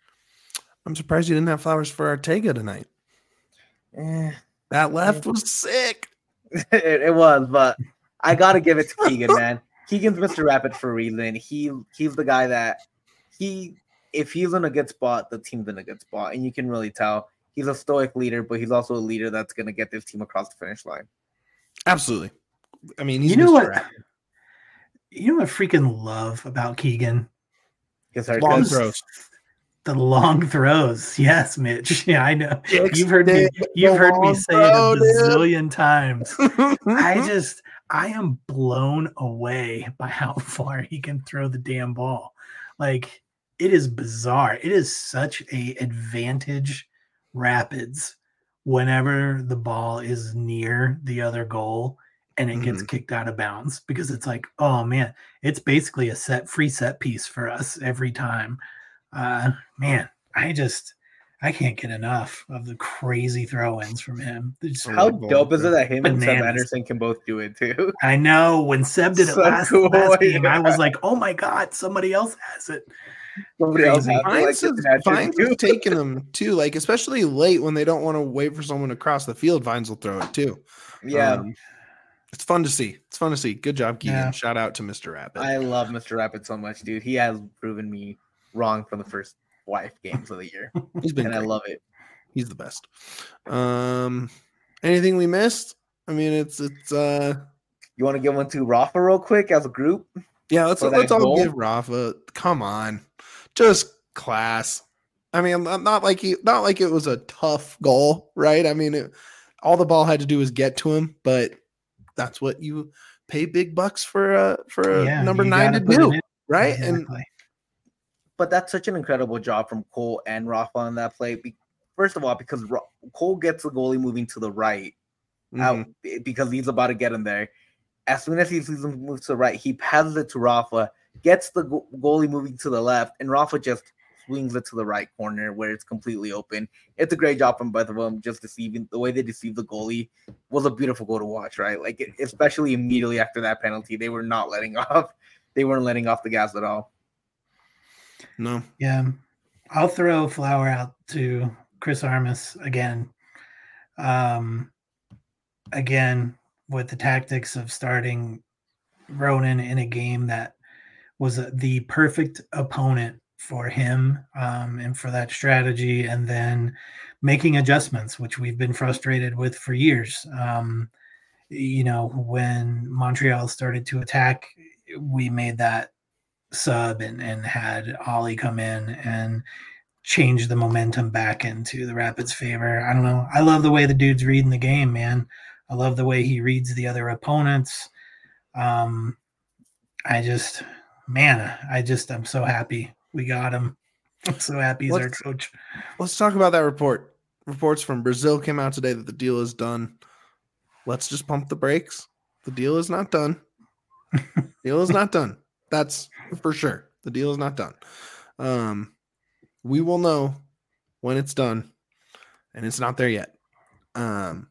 I'm surprised you didn't have flowers for Ortega tonight. Eh, That left was sick. it, it was, but I gotta give it to Keegan, man. Keegan's Mister Rapid for a reason. He he's the guy that he if he's in a good spot, the team's in a good spot, and you can really tell. He's a stoic leader, but he's also a leader that's gonna get this team across the finish line. Absolutely. I mean, he's you know Mister what? Rapid. You know what I freaking love about Keegan? His Long haircut. throws. The long throws. Yes, Mitch. Yeah, I know. Dicks You've heard me. did You've the heard me long say throw, it a dude. bazillion times. I just, I am blown away by how far he can throw the damn ball. Like, it is bizarre. It is such a advantage Rapids whenever the ball is near the other goal and it gets Mhm. kicked out of bounds, because it's like, oh man, it's basically a set free set piece for us every time. Uh, man, I just, I can't get enough of the crazy throw-ins from him. They're just- How dope is it that him and Seb Bananas. Anderson can both do it too? I know when Seb did it So last, cool, last game, yeah. I was like, oh my God, somebody else has it. Somebody else Crazy. has to, like, Vines get have, the matches Vines too. have taken them too, like especially late when they don't want to wait for someone to cross the field. Vines will throw it too. Yeah, Um, it's fun to see. It's fun to see. Good job, Keegan. Yeah. Shout out to Mister Rapid. I love Mister Rapid so much, dude. He has proven me wrong for the first five games of the year, He's been and I great. love it. He's the best. Um, anything we missed? I mean, it's it's uh You want to give one to Rafa real quick as a group? yeah. Let's For that let's all goal? give Rafa. Come on, just class. I mean, not not like he not like it was a tough goal, right? I mean, it, all the ball had to do was get to him, but that's what you pay big bucks for uh for a Yeah, number you nine to gotta put it do, in. right? And Exactly. But that's such an incredible job from Cole and Rafa on that play. Be- First of all, because Ra- Cole gets the goalie moving to the right, out mhm. b- because he's about to get him there. As soon as he sees him move to the right, he passes it to Rafa, gets the go- goalie moving to the left, and Rafa just swings it to the right corner where it's completely open. It's a great job from both of them. Just deceiving the way they deceived the goalie was a beautiful goal to watch, right? Like, it, especially immediately after that penalty, they were not letting off. They weren't letting off the gas at all. No. Yeah. I'll throw flower out to Chris Armas again. Um, again, with the tactics of starting Ronan in a game that was the perfect opponent for him um, and for that strategy, and then making adjustments, which we've been frustrated with for years. Um, you know, when Montreal started to attack, we made that sub and, and had Ollie come in and change the momentum back into the Rapids' favor. I don't know. I love the way the dude's reading the game, man. I love the way he reads the other opponents. Um, I just, man, I just, I'm so happy we got him. I'm so happy he's let's, our coach. Let's talk about that report. Reports from Brazil came out today that the deal is done. Let's just pump the brakes. The deal is not done. Deal is not done. That's for sure. The deal is not done. Um, we will know when it's done, and it's not there yet. Um,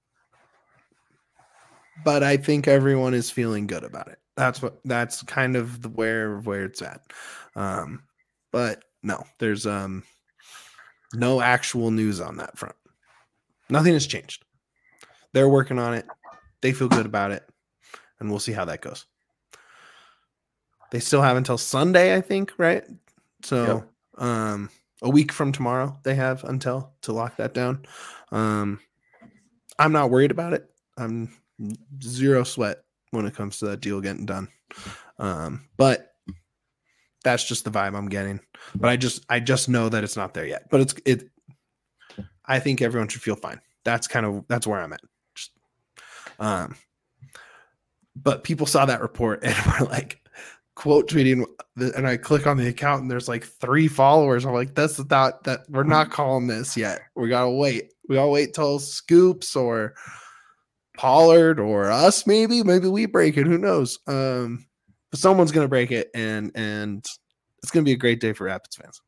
but I think everyone is feeling good about it. That's what. That's kind of the where where it's at. Um, but no, there's um no actual news on that front. Nothing has changed. They're working on it. They feel good about it, and we'll see how that goes. They still have until Sunday, I think, right? So, yep. um, a week from tomorrow, they have until to lock that down. Um, I'm not worried about it. I'm zero sweat when it comes to that deal getting done. Um, but that's just the vibe I'm getting. But I just, I just know that it's not there yet. But it's, it. I think everyone should feel fine. That's kind of that's where I'm at. Just, um, but people saw that report and were like, quote tweeting, and I click on the account and there's like three followers. I'm like, that's not that we're not calling this yet. We gotta wait. We gotta wait till Scoops or Pollard or us. Maybe, maybe we break it. Who knows? Um, but someone's gonna break it, and and it's gonna be a great day for Rapids fans.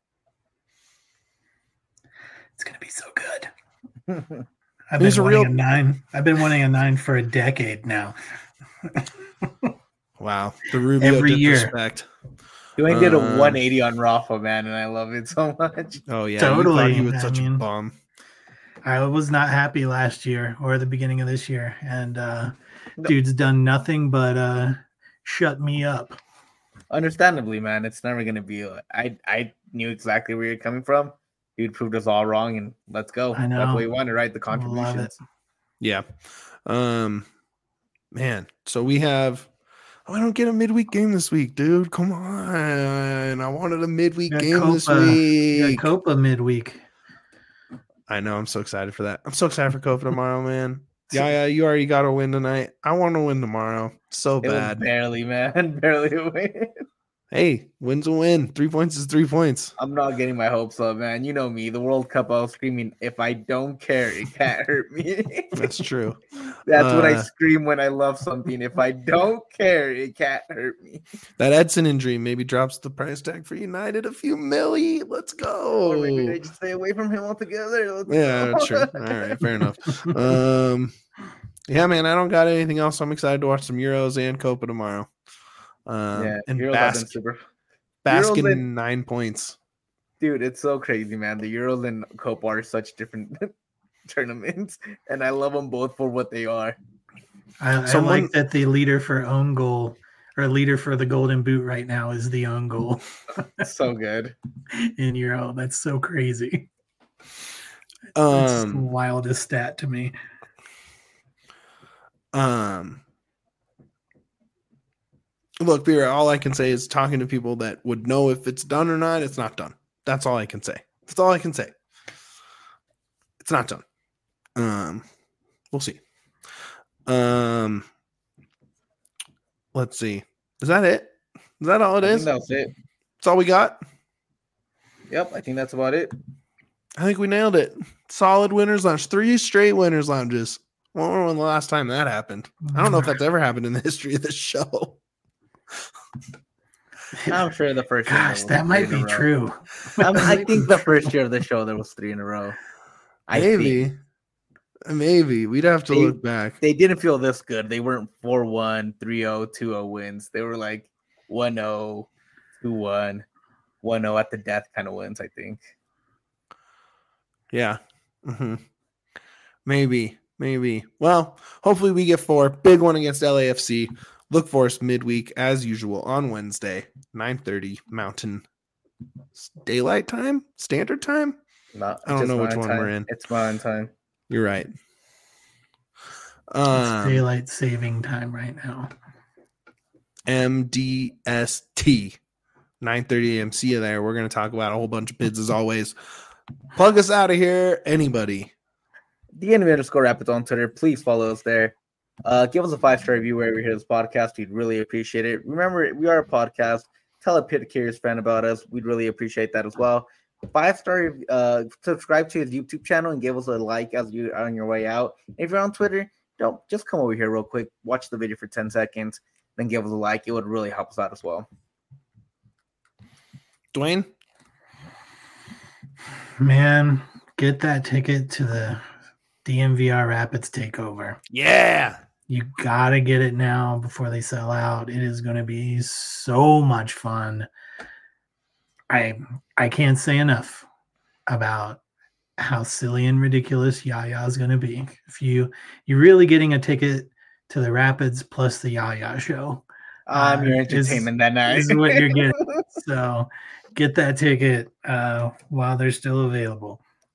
It's gonna be so good. I've been wanting a, real... a nine. I've been wanting a nine for a decade now. Wow, the Rubio every disrespect. year. You ain't did a uh, one eighty on Rafa, man, and I love it so much. Oh yeah, totally. You thought he was such I mean, a bum. I was not happy last year or the beginning of this year, and uh, no. dude's done nothing but uh, shut me up. Understandably, man, it's never gonna be. Like, I I knew exactly where you're coming from. Dude proved us all wrong, and let's go. I know. That's what we wanted, right? The contributions. Yeah. Um, man. So we have. Oh, I don't get a midweek game this week, dude. Come on. I wanted a midweek game Copa, this week. Copa midweek. I know. I'm so excited for that. I'm so excited for Copa tomorrow, man. Yeah, yeah. You already got to win tonight. I want to win tomorrow. So it bad. Barely, man. Barely a win. Hey, win's a win. Three points is three points. I'm not getting my hopes up, man. You know me. The World Cup, I was screaming, if I don't care, it can't hurt me. That's true. That's uh, what I scream when I love something. If I don't care, it can't hurt me. That Edson injury maybe drops the price tag for United a few milli. Let's go. Or maybe they just stay away from him altogether. Let's yeah, that's true. All right, fair enough. Um, yeah, man, I don't got anything else. I'm excited to watch some Euros and Copa tomorrow. Um, yeah, and Euros bask, super. bask in and, nine points. Dude, it's so crazy, man. The Euros and Copa are such different tournaments, and I love them both for what they are. I, Someone, I like that the leader for own goal or leader for the Golden Boot right now is the own goal. So good in Euro. That's so crazy. Um, That's the wildest stat to me. Um. Look, Beer, all I can say is talking to people that would know if it's done or not, it's not done. That's all I can say. That's all I can say. It's not done. Um, we'll see. Um, let's see. Is that it? Is that all it I is? think that's it. That's all we got? Yep, I think that's about it. I think we nailed it. Solid winners lounge. Three straight winners lounges. I wonder when the last time that happened. I don't know if that's ever happened in the history of this show. I'm sure the first Gosh, year that might be true. I, I think the first year of the show there was three in a row. I Maybe. Think. Maybe. We'd have to they, look back. They didn't feel this good. They weren't four one, three oh, two oh wins. They were like one oh, two one. one oh at the death kind of wins, I think. Yeah. Mm-hmm. Maybe. Maybe. Well, hopefully we get four. Big one against L A F C. Look for us midweek as usual on Wednesday, nine thirty Mountain Daylight Time? Standard Time? Not, I don't know which one time. we're in. It's Mountain Time. You're right. It's Um, daylight saving time right now. M D S T, nine thirty a.m. See you there. We're going to talk about a whole bunch of bids as always. Plug us out of here. Anybody? The enemy underscore Rapids on Twitter. Please follow us there. Uh, give us a five-star review wherever you hear this podcast. We'd really appreciate it. Remember, we are a podcast. Tell a Pit Curious friend about us. We'd really appreciate that as well. Five-star, uh, subscribe to his YouTube channel and give us a like as you're on your way out. If you're on Twitter, don't just come over here real quick. Watch the video for ten seconds, then give us a like. It would really help us out as well. Dwayne? Man, get that ticket to the D M V R Rapids takeover. Yeah. You gotta get it now before they sell out. It is going to be so much fun. I I can't say enough about how silly and ridiculous Yaya is going to be. If you you're really getting a ticket to the Rapids plus the Yaya show, I'm uh, your entertainment is, that night. is what you're getting. So get that ticket uh, while they're still available.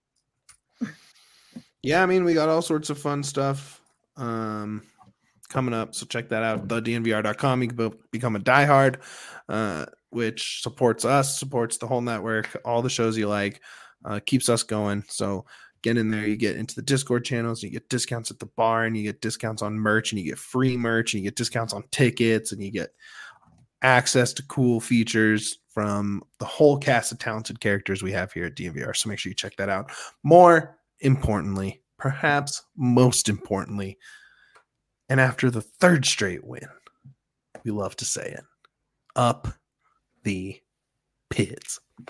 Yeah, I mean, we got all sorts of fun stuff um, coming up. So check that out, the D N V R dot com. You can be- become a diehard, uh, which supports us, supports the whole network, all the shows you like, uh, keeps us going. So get in there. You get into the Discord channels. You get discounts at the bar, and you get discounts on merch, and you get free merch, and you get discounts on tickets, and you get access to cool features from the whole cast of talented characters we have here at D N V R. So make sure you check that out. More importantly, perhaps most importantly, and after the third straight win, we love to say it, up the